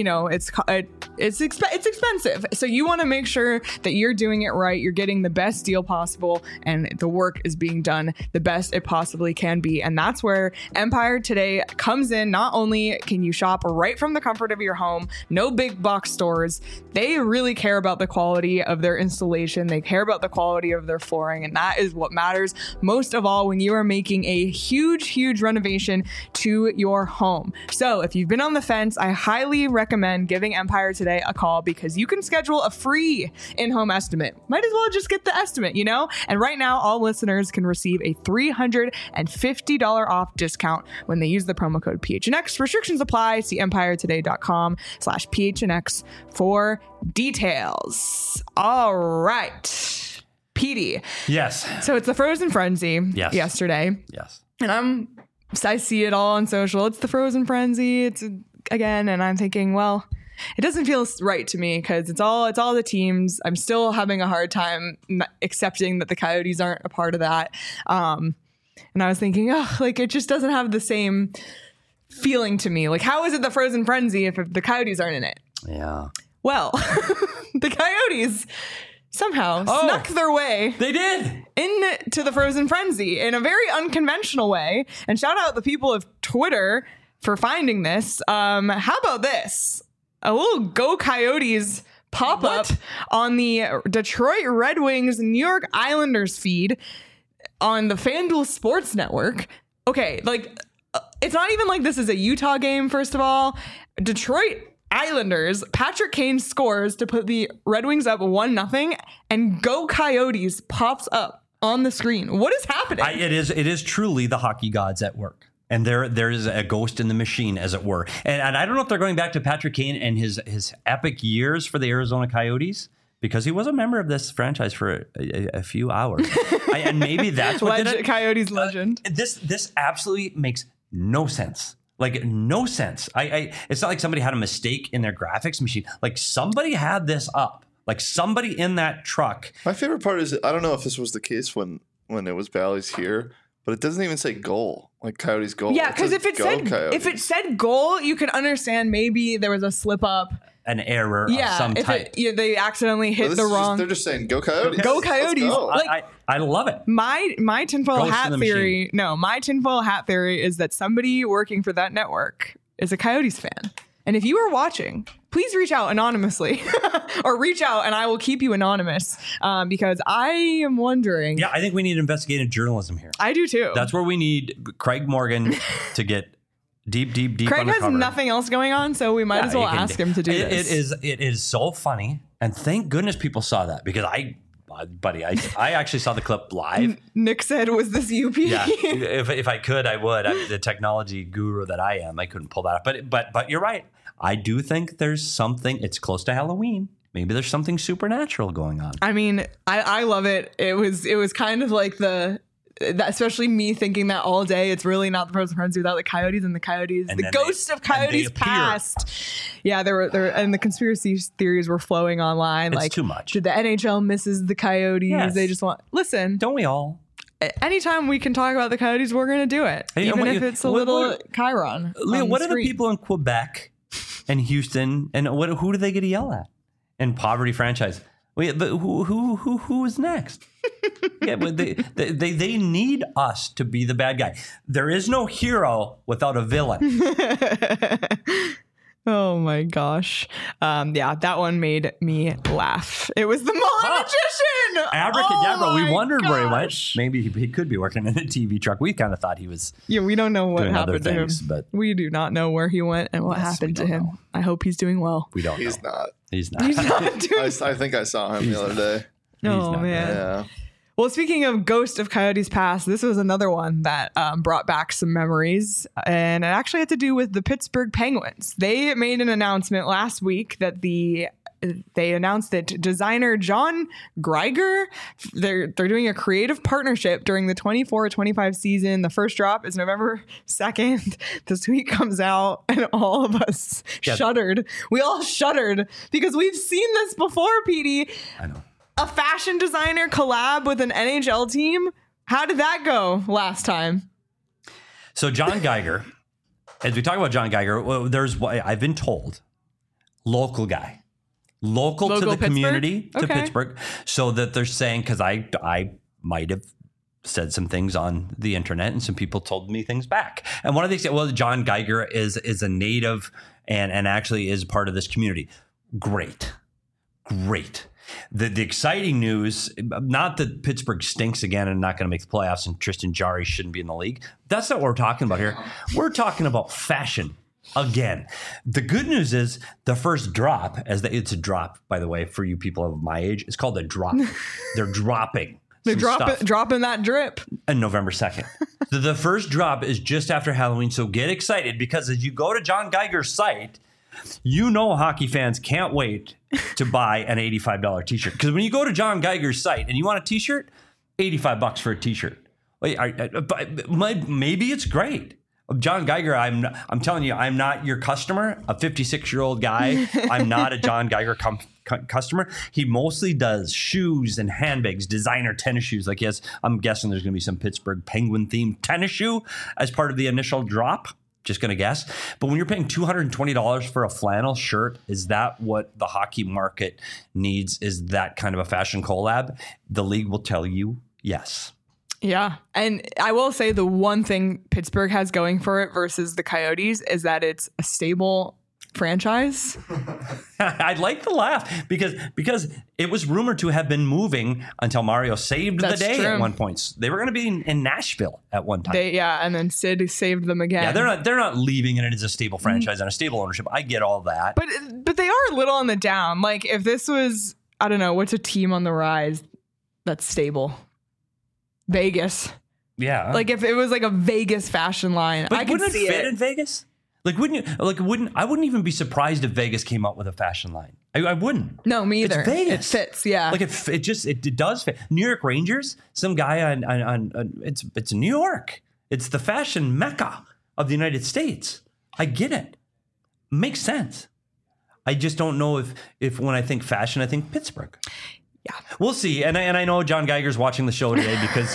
It's expensive. So you want to make sure that you're doing it right. You're getting the best deal possible, and the work is being done the best it possibly can be. And that's where Empire Today comes in. Not only can you shop right from the comfort of your home, no big box stores. They really care about the quality of their installation. They care about the quality of their flooring. And that is what matters most of all when you are making a huge renovation to your home. So if you've been on the fence, I highly recommend giving Empire Today a call, because you can schedule a free in-home estimate. Might as well just get the estimate, And right now, all listeners can receive a $350 off discount when they use the promo code PHNX. Restrictions apply. See EmpireToday.com/PHNX for details. All right. PD. Yes. So it's the Frozen Frenzy yesterday. Yes. And I see it all on social. It's the Frozen Frenzy. And I'm thinking, well, it doesn't feel right to me because it's all the teams. I'm still having a hard time accepting that the Coyotes aren't a part of that. And I was thinking, it just doesn't have the same feeling to me. Like, how is it the Frozen Frenzy if the Coyotes aren't in it? Yeah. Well, the Coyotes somehow snuck their way. They did. Into the Frozen Frenzy in a very unconventional way. And shout out the people of Twitter for finding this. How about this? a little Go Coyotes pop up on the Detroit Red Wings New York Islanders feed on the FanDuel Sports Network. Okay, like it's not even like this is a Utah game, first of all. Detroit Islanders, Patrick Kane scores to put the Red Wings up 1-0, and Go Coyotes pops up on the screen. What is happening? It is truly the hockey gods at work. And there is a ghost in the machine, as it were. And I don't know if they're going back to Patrick Kane and his epic years for the Arizona Coyotes, because he was a member of this franchise for a few hours. And maybe that's what did it. Coyotes legend. This absolutely makes no sense. Like, no sense. It's not like somebody had a mistake in their graphics machine. Like, somebody had this up. Like, somebody in that truck. My favorite part is, I don't know if this was the case when it was Bally's here, but it doesn't even say goal, like Coyotes goal. Yeah, because if it said goal, you can understand maybe there was a slip up, an error of some type. They accidentally hit the wrong. They're just saying go Coyotes. Go Coyotes. Go. Like, I love it. My tinfoil hat theory. No, my tinfoil hat theory is that somebody working for that network is a Coyotes fan. And if you are watching, please reach out anonymously or reach out and I will keep you anonymous because I am wondering. Yeah, I think we need investigative journalism here. I do too. That's where we need Craig Morgan to get deep Craig undercover. has nothing else going on, so we might as well ask him to do this. It is so funny. And thank goodness people saw that, because I actually saw the clip live. Nick said, was this UP? Yeah, if I could, I would. I'm the technology guru that I am. I couldn't pull that up. But you're right. I do think there's something. It's close to Halloween. Maybe there's something supernatural going on. I mean, I love it. It was kind of like especially me thinking that all day. It's really not the Pros and Friends without the Coyotes, and the Coyotes, and the ghost of Coyotes past. Yeah, there and the conspiracy theories were flowing online. It's like, too much. Did the NHL misses the Coyotes? Yes. They just want listen. Don't we all? Anytime we can talk about the Coyotes, we're going to do it, even if it's a little Chiron. Leah, what are the people in Quebec and Houston, and who do they get to yell at? And poverty franchise. Wait, but who is next? Yeah, but they need us to be the bad guy. There is no hero without a villain. Oh my gosh. Yeah, that one made me laugh. It was the Mullen Magician. Abracadabra. We wondered where he went. Maybe he could be working in a TV truck. We kind of thought he was. Yeah, we don't know what happened to him. But we do not know where he went and what happened to him. I hope he's doing well. We don't know. He's not. He's not. He's not doing I think I saw him the other day. Oh, man. Yeah. Well, speaking of Ghost of Coyotes Past, this was another one that brought back some memories, and it actually had to do with the Pittsburgh Penguins. They made an announcement last week that they announced that designer John Geiger, they're doing a creative partnership during the 24-25 season. The first drop is November 2nd. This week comes out, and all of us shuddered. We all shuddered because we've seen this before, Petey. I know. A fashion designer collab with an NHL team. How did that go last time? So John Geiger, as we talk about John Geiger, there's what I've been told, local guy, local to the Pittsburgh? Community, to Okay. Pittsburgh. So that they're saying, because I might have said some things on the internet and some people told me things back. And one of these, well, John Geiger is a native and actually is part of this community. Great. The exciting news, not that Pittsburgh stinks again and not going to make the playoffs and Tristan Jarry shouldn't be in the league. That's not what we're talking about here. We're talking about fashion again. The good news is the first drop, it's a drop, by the way, for you people of my age. It's called a drop. They're dropping. They're dropping that drip. On November 2nd. The first drop is just after Halloween. So get excited, because as you go to John Geiger's site, you know hockey fans can't wait to buy an $85 t-shirt. Because when you go to John Geiger's site and you want a t-shirt, $85 for a t-shirt. Maybe it's great. John Geiger, I'm telling you, I'm not your customer, a 56-year-old guy. I'm not a John Geiger customer. He mostly does shoes and handbags, designer tennis shoes. Like, yes, I'm guessing there's going to be some Pittsburgh Penguin themed tennis shoe as part of the initial drop. Just going to guess. But when you're paying $220 for a flannel shirt, is that what the hockey market needs? Is that kind of a fashion collab? The league will tell you yes. Yeah. And I will say the one thing Pittsburgh has going for it versus the Coyotes is that it's a stable franchise. I like the laugh because it was rumored to have been moving until Mario saved the day at one point. They were going to be in Nashville at one time. And then Sid saved them again. Yeah, they're not leaving it as a stable franchise and a stable ownership. I get all that. But they are a little on the down. Like if this was, I don't know, what's a team on the rise that's stable? Vegas. Yeah. Like if it was like a Vegas fashion line, but I could wouldn't see it fit in Vegas? Like, wouldn't you? Like, I wouldn't even be surprised if Vegas came up with a fashion line. I wouldn't. No, me either. It's Vegas. It fits, yeah. Like it does fit. New York Rangers. Some guy on it's New York. It's the fashion mecca of the United States. I get it. Makes sense. I just don't know if when I think fashion, I think Pittsburgh. Yeah, we'll see. And I know John Geiger's watching the show today because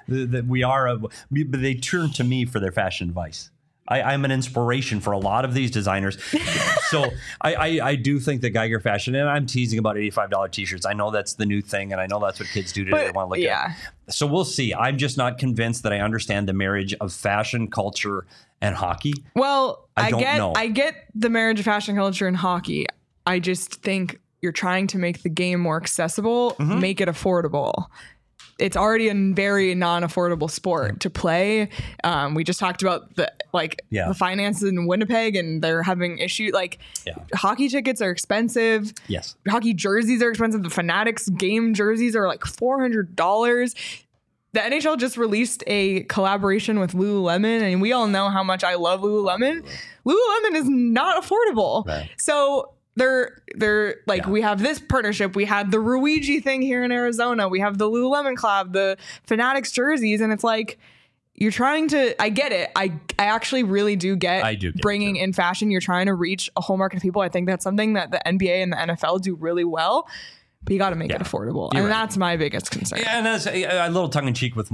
they turn to me for their fashion advice. I'm an inspiration for a lot of these designers. So I do think that Geiger Fashion, and I'm teasing about $85 t-shirts. I know that's the new thing, and I know that's what kids do today. They want to look at. So we'll see. I'm just not convinced that I understand the marriage of fashion, culture, and hockey. Well, I get the marriage of fashion, culture, and hockey. I just think you're trying to make the game more accessible, make it affordable. It's already a very non-affordable sport to play. We just talked about the finances in Winnipeg, and they're having issues. Hockey tickets are expensive. Yes, hockey jerseys are expensive. The Fanatics game jerseys are like $400. The NHL just released a collaboration with Lululemon, and we all know how much I love Lululemon. Lululemon is not affordable, right. So. They're like, we have this partnership. We had the Ruigi thing here in Arizona. We have the Lululemon collab, the Fanatics jerseys. And it's like, you're trying to, I get it. I actually really do get bringing in fashion. You're trying to reach a whole market of people. I think that's something that the NBA and the NFL do really well. But you got to make it affordable. And that's my biggest concern. Yeah, and that's a little tongue in cheek with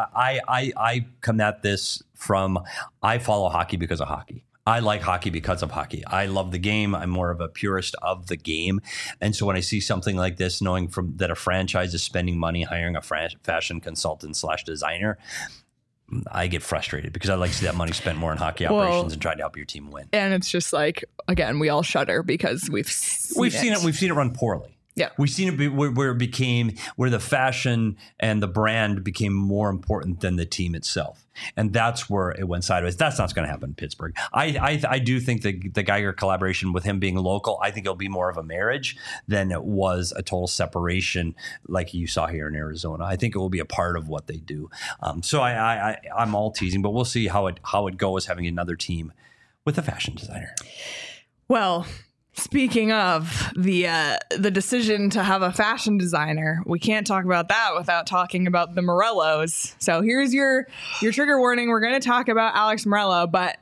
I come at this from, I follow hockey because of hockey. I like hockey because of hockey. I love the game. I'm more of a purist of the game. And so when I see something like this, knowing that a franchise is spending money hiring a fashion consultant / designer, I get frustrated because I like to see that money spent more in hockey operations and trying to help your team win. And it's just like, again, we all shudder because we've seen it. We've seen it run poorly. Yeah, we've seen it where the fashion and the brand became more important than the team itself, and that's where it went sideways. That's not going to happen in Pittsburgh. I do think the Geiger collaboration with him being local, I think it'll be more of a marriage than it was a total separation like you saw here in Arizona. I think it will be a part of what they do. So I'm all teasing, but we'll see how it goes having another team with a fashion designer. Well. Speaking of the decision to have a fashion designer, we can't talk about that without talking about the Morellos. So here's your trigger warning. We're going to talk about Alex Morello, but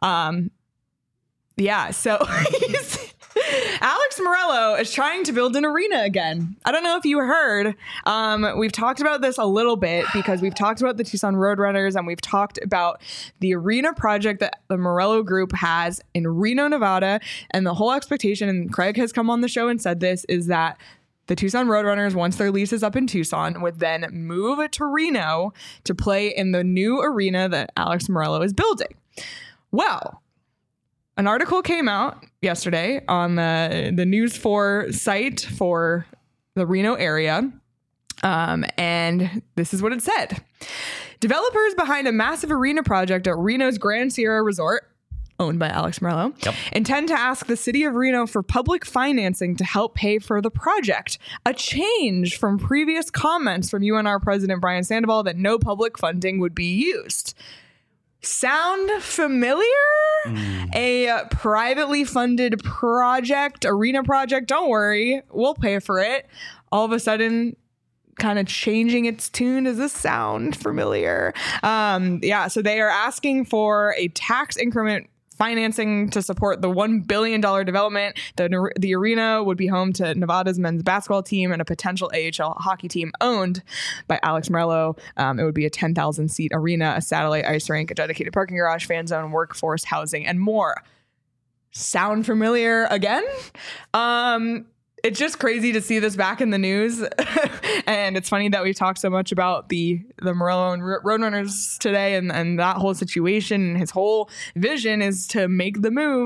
so Alex Morello is trying to build an arena again. I don't know if you heard. We've talked about this a little bit because we've talked about the Tucson Roadrunners and we've talked about the arena project that the Morello Group has in Reno, Nevada. And the whole expectation, and Craig has come on the show and said this, is that the Tucson Roadrunners, once their lease is up in Tucson, would then move to Reno to play in the new arena that Alex Morello is building. Well, an article came out yesterday on the News 4 site for the Reno area, and this is what it said. Developers behind a massive arena project at Reno's Grand Sierra Resort, owned by Alex Morello, intend to ask the city of Reno for public financing to help pay for the project, a change from previous comments from UNR President Brian Sandoval that no public funding would be used. Sound familiar? A privately funded project, arena project, don't worry, we'll pay for it. All of a sudden, kind of changing its tune. Does this sound familiar? So they are asking for a tax increment financing to support the $1 billion development. The arena would be home to Nevada's men's basketball team and a potential AHL hockey team owned by Alex Morello. It would be a 10,000 seat arena, a satellite ice rink, a dedicated parking garage, fan zone, workforce housing, and more. Sound familiar again? It's just crazy to see this back in the news. And it's funny that we've talked so much about the Morello and Roadrunners today and that whole situation. His whole vision is to make the move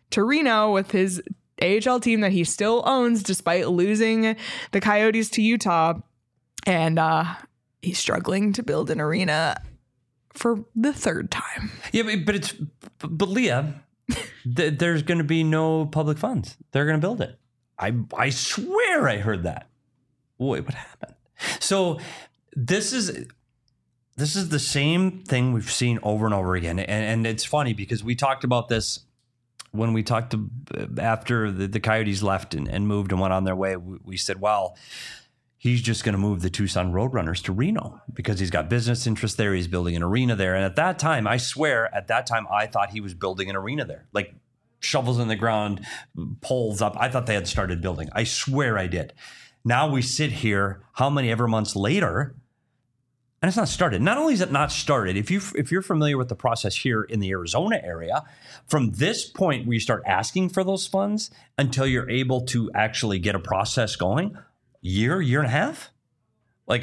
to Reno with his AHL team that he still owns despite losing the Coyotes to Utah. And he's struggling to build an arena for the third time. Yeah, but Leah, there's going to be no public funds. They're going to build it. I swear I heard that. Wait, what happened? So this is the same thing we've seen over and over again. And it's funny because we talked about this when we talked after the Coyotes left and moved and went on their way. We said, well, he's just going to move the Tucson Roadrunners to Reno because he's got business interests there. He's building an arena there. And at that time, I swear, I thought he was building an arena there. Like shovels in the ground, poles up. I thought they had started building. I swear I did. Now we sit here, how many ever months later, and it's not started. Not only is it not started, if you're familiar with the process here in the Arizona area, from this point where you start asking for those funds until you're able to actually get a process going, year and a half? Like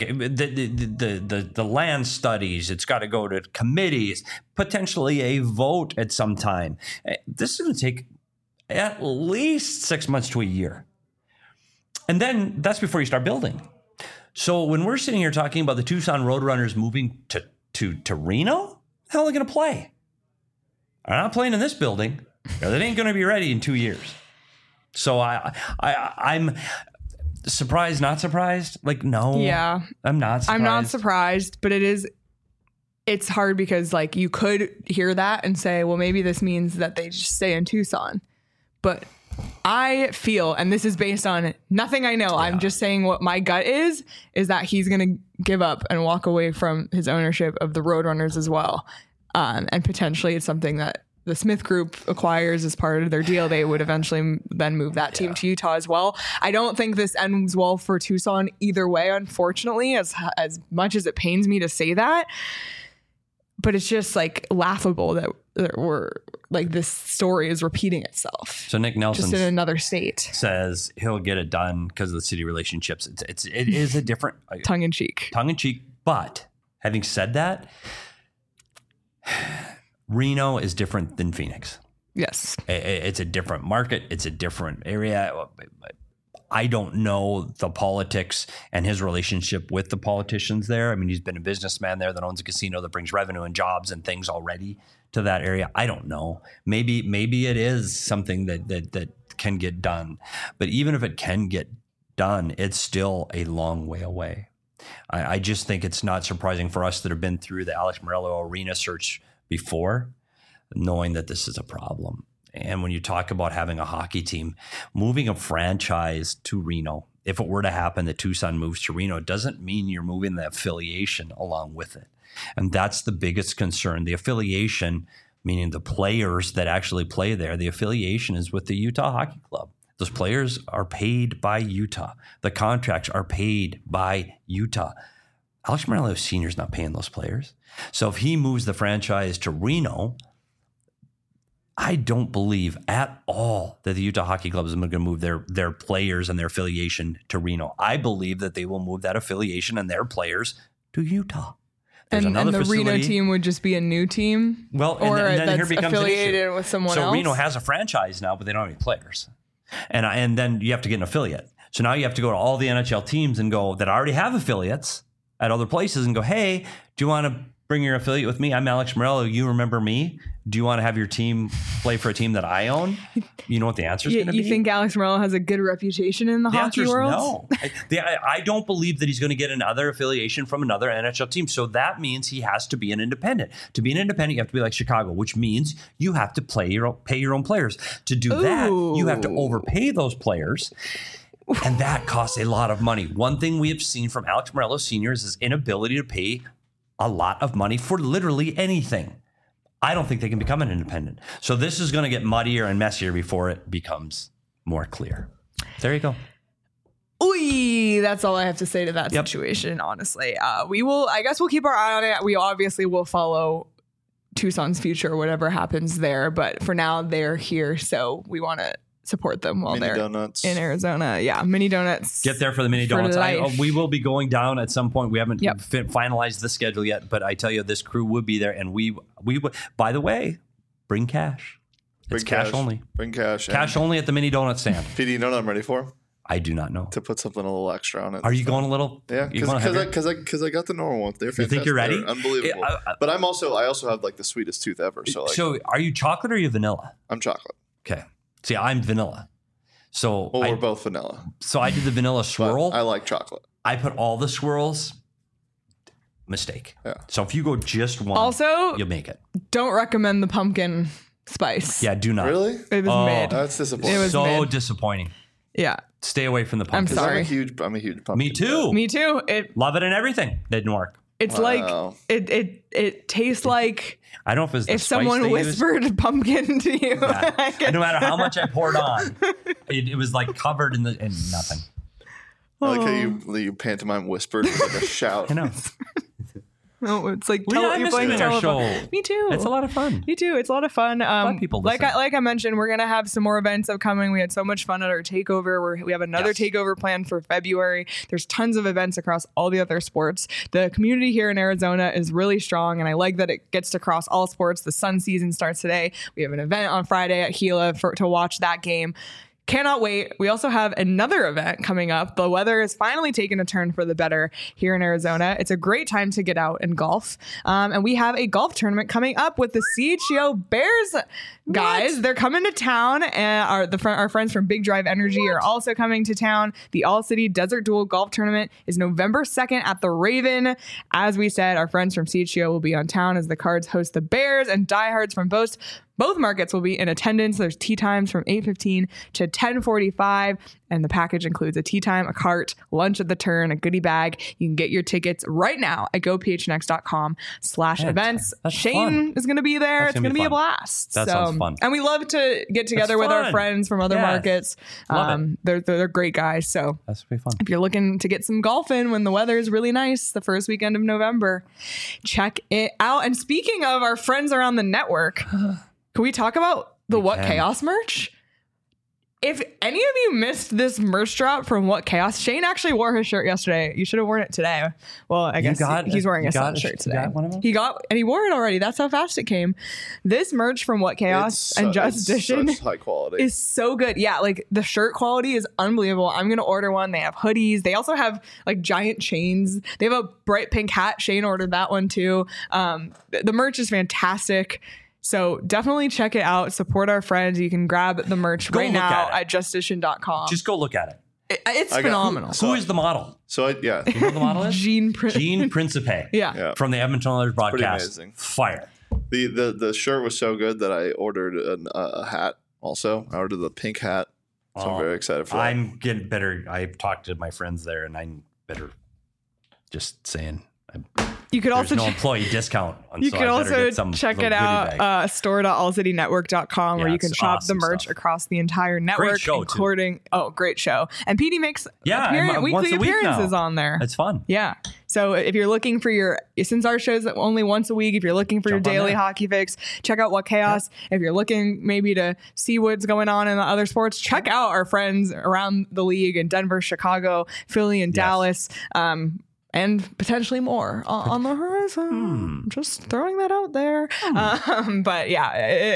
the land studies, it's got to go to committees, potentially a vote at some time. This is going to take at least 6 months to a year. And then that's before you start building. So when we're sitting here talking about the Tucson Roadrunners moving to Reno, how are they going to play? They're not playing in this building. They ain't going to be ready in 2 years. So I'm surprised, not surprised. Like, no. Yeah. I'm not surprised. I'm not surprised, but it's hard because like you could hear that and say, well, maybe this means that they just stay in Tucson. But I feel, and this is based on nothing I know, yeah. I'm just saying what my gut is that he's going to give up and walk away from his ownership of the Roadrunners as well. And potentially it's something that the Smith Group acquires as part of their deal. They would eventually then move that team to Utah as well. I don't think this ends well for Tucson either way, unfortunately, as much as it pains me to say that. But it's just like laughable that we're like this story is repeating itself. So Nick Nelson just in another state says he'll get it done because of the city relationships. It is a different tongue in cheek. But having said that, Reno is different than Phoenix. Yes, it's a different market. It's a different area. I don't know the politics and his relationship with the politicians there. I mean, he's been a businessman there that owns a casino that brings revenue and jobs and things already to that area. I don't know. Maybe it is something that can get done. But even if it can get done, it's still a long way away. I just think it's not surprising for us that have been through the Alex Morello arena search before, knowing that this is a problem. And when you talk about having a hockey team, moving a franchise to Reno, if it were to happen that Tucson moves to Reno, it doesn't mean you're moving the affiliation along with it. And that's the biggest concern. The affiliation, meaning the players that actually play there, the affiliation is with the Utah Hockey Club. Those players are paid by Utah. The contracts are paid by Utah. Alex Morello Sr. is not paying those players. So if he moves the franchise to Reno, I don't believe at all that the Utah Hockey Club is going to move their players and their affiliation to Reno. I believe that they will move that affiliation and their players to Utah. And the Reno team would just be a new team? Well, and then that's here becomes affiliated an issue. With someone else? So Reno has a franchise now, but they don't have any players. And then you have to get an affiliate. So now you have to go to all the NHL teams and go that already have affiliates at other places and go, hey, do you want to bring your affiliate with me? I'm Alex Morello. You remember me? Do you want to have your team play for a team that I own? You know what the answer is going to be? You think Alex Morello has a good reputation in the hockey world? No. I don't believe that he's going to get another affiliation from another NHL team. So that means he has to be an independent. To be an independent, you have to be like Chicago, which means you have to pay your own players. To do that, you have to overpay those players. And that costs a lot of money. One thing we have seen from Alex Morello Sr. is his inability to pay a lot of money for literally anything. I don't think they can become an independent. So this is going to get muddier and messier before it becomes more clear. There you go. Oy, that's all I have to say to that situation, honestly. I guess we'll keep our eye on it. We obviously will follow Tucson's future, whatever happens there. But for now, they're here. So we want to support them while they're in Arizona. Yeah, mini donuts. Get there for the mini donuts. We will be going down at some point. We haven't finalized the schedule yet, but I tell you, this crew will be there. And we by the way, bring cash. It's cash only. Bring cash. Cash only at the mini donut stand. PD, you know what I'm ready for? I do not know. To put something a little extra on it. Are you going a little? Yeah, because I got the normal one. They're fantastic. You think you're ready? They're unbelievable. But I also have like the sweetest tooth ever. So are you chocolate or are you vanilla? I'm chocolate. Okay. See, I'm vanilla. So we're both vanilla. So I did the vanilla swirl. But I like chocolate. I put all the swirls. Mistake. Yeah. So if you go just one, also, you'll make it. Don't recommend the pumpkin spice. Yeah, do not. Really? It was mid. That's disappointing. It was so disappointing. Yeah. Stay away from the pumpkin. I'm sorry. I'm a huge pumpkin. Me too. Me too. Love it and everything. Didn't work. It's like it tastes like I don't know if it's if someone whispered pumpkin to you. Yeah. No matter how much I poured on, it was like covered in nothing. I like how you pantomime whispered like a shout. I know. No, it's like you're playing our show. Me too. It's a lot of fun. Me too. It's a lot of fun. People like I mentioned, we're gonna have some more events upcoming. We had so much fun at our takeover. We have another takeover planned for February. There's tons of events across all the other sports. The community here in Arizona is really strong, and I like that it gets to cross all sports. The Sun season starts today. We have an event on Friday at Gila to watch that game. Cannot wait. We also have another event coming up. The weather is finally taking a turn for the better here in Arizona. It's a great time to get out and golf. And we have a golf tournament coming up with the CHGO Bears guys. They're coming to town, and our friends from Big Drive Energy are also coming to town. The All-City Desert Duel Golf Tournament is November 2nd at the Raven. As we said, our friends from CHGO will be on town as the Cards host the Bears, and diehards from both markets will be in attendance. There's tee times from 8:15 to 10:45, and the package includes a tee time, a cart, lunch at the turn, a goodie bag. You can get your tickets right now at gophnx.com/events. Shane is going to be there. It's going to be a blast. That sounds fun. And we love to get together with our friends from other markets. They're great guys. So that's going to be fun. If you're looking to get some golf in when the weather is really nice, the first weekend of November, check it out. And speaking of our friends around the network, can we talk about the What Chaos merch? If any of you missed this merch drop from What Chaos, Shane actually wore his shirt yesterday. You should have worn it today. Well, I guess he's wearing a Sun shirt today. Got one of them? He wore it already. That's how fast it came. This merch from What Chaos and Just Edition high quality. is so good. Yeah, like the shirt quality is unbelievable. I'm gonna order one. They have hoodies. They also have like giant chains. They have a bright pink hat. Shane ordered that one too. The merch is fantastic. So definitely check it out. Support our friends. You can grab the merch right now at justedition.com. Just go look at it. It's phenomenal. Who is the model? You know what the model is? Gene Principe. Yeah. From the Edmonton Oilers broadcast. Pretty amazing. Fire. The shirt was so good that I ordered a hat also. I ordered the pink hat. So I'm very excited for that. I'm getting better. I've talked to my friends there, and I'm better. Just saying. You could also no employee discount. You could also check it out, store.allcitynetwork.com, where you can shop the merch across the entire network, great show, including great show. And PD makes weekly appearances on there. It's fun. Yeah. So if you're looking for since our show's only once a week, if you're looking for your daily hockey fix, check out What Chaos. If you're looking maybe to see what's going on in the other sports, check out our friends around the league in Denver, Chicago, Philly, and Dallas. And potentially more on the horizon. Just throwing that out there. But yeah,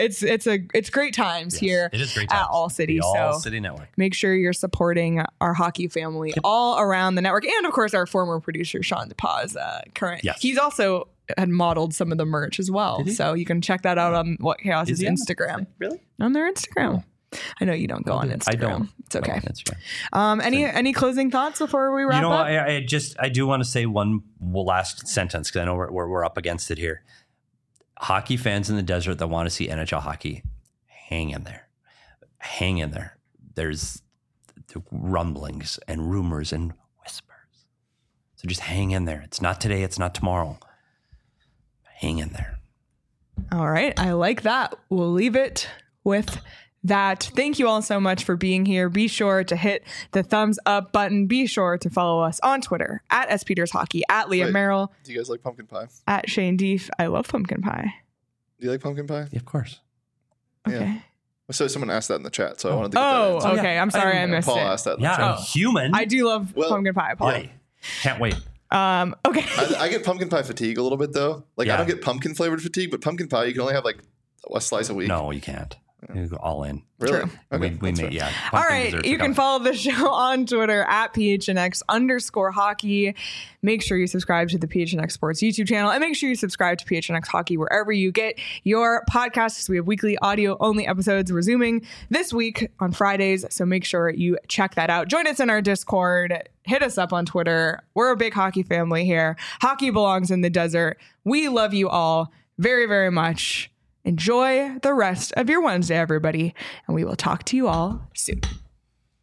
it's great times here. It is great times at All City. The All City Network. Make sure you're supporting our hockey family all around the network, and of course our former producer Sean DePaz. Current. Yes. He's also had modeled some of the merch as well, so you can check that out on What Chaos's Instagram. Really? On their Instagram. I know you don't go on Instagram. I don't. It's okay. Any closing thoughts before we wrap up? I do want to say one last sentence because I know we're up against it here. Hockey fans in the desert that want to see NHL hockey, hang in there. Hang in there. There's rumblings and rumors and whispers. So just hang in there. It's not today. It's not tomorrow. Hang in there. All right. I like that. We'll leave it with that. Thank you all so much for being here. Be sure to hit the thumbs up button. Be sure to follow us on Twitter at SPetersHockey, at Leah Merrill. Do you guys like pumpkin pie? At Shane Deef. I love pumpkin pie. Do you like pumpkin pie? Yeah, of course. Okay. Yeah. So someone asked that in the chat, so I wanted to get that in. Okay. I'm sorry I missed Paul it. asked that in the chat. Human. I do love pumpkin pie, Paul. Yeah. Can't wait. Okay. I get pumpkin pie fatigue a little bit though. I don't get pumpkin flavored fatigue, but pumpkin pie you can only have like a slice a week. No, you can't. All in. Really? True. Okay, We made, yeah. All right. You can follow the show on Twitter at PHNX_hockey. Make sure you subscribe to the PHNX Sports YouTube channel, and make sure you subscribe to PHNX Hockey wherever you get your podcasts. We have weekly audio only episodes resuming this week on Fridays. So make sure you check that out. Join us in our Discord. Hit us up on Twitter. We're a big hockey family here. Hockey belongs in the desert. We love you all very, very much. Enjoy the rest of your Wednesday, everybody, and we will talk to you all soon.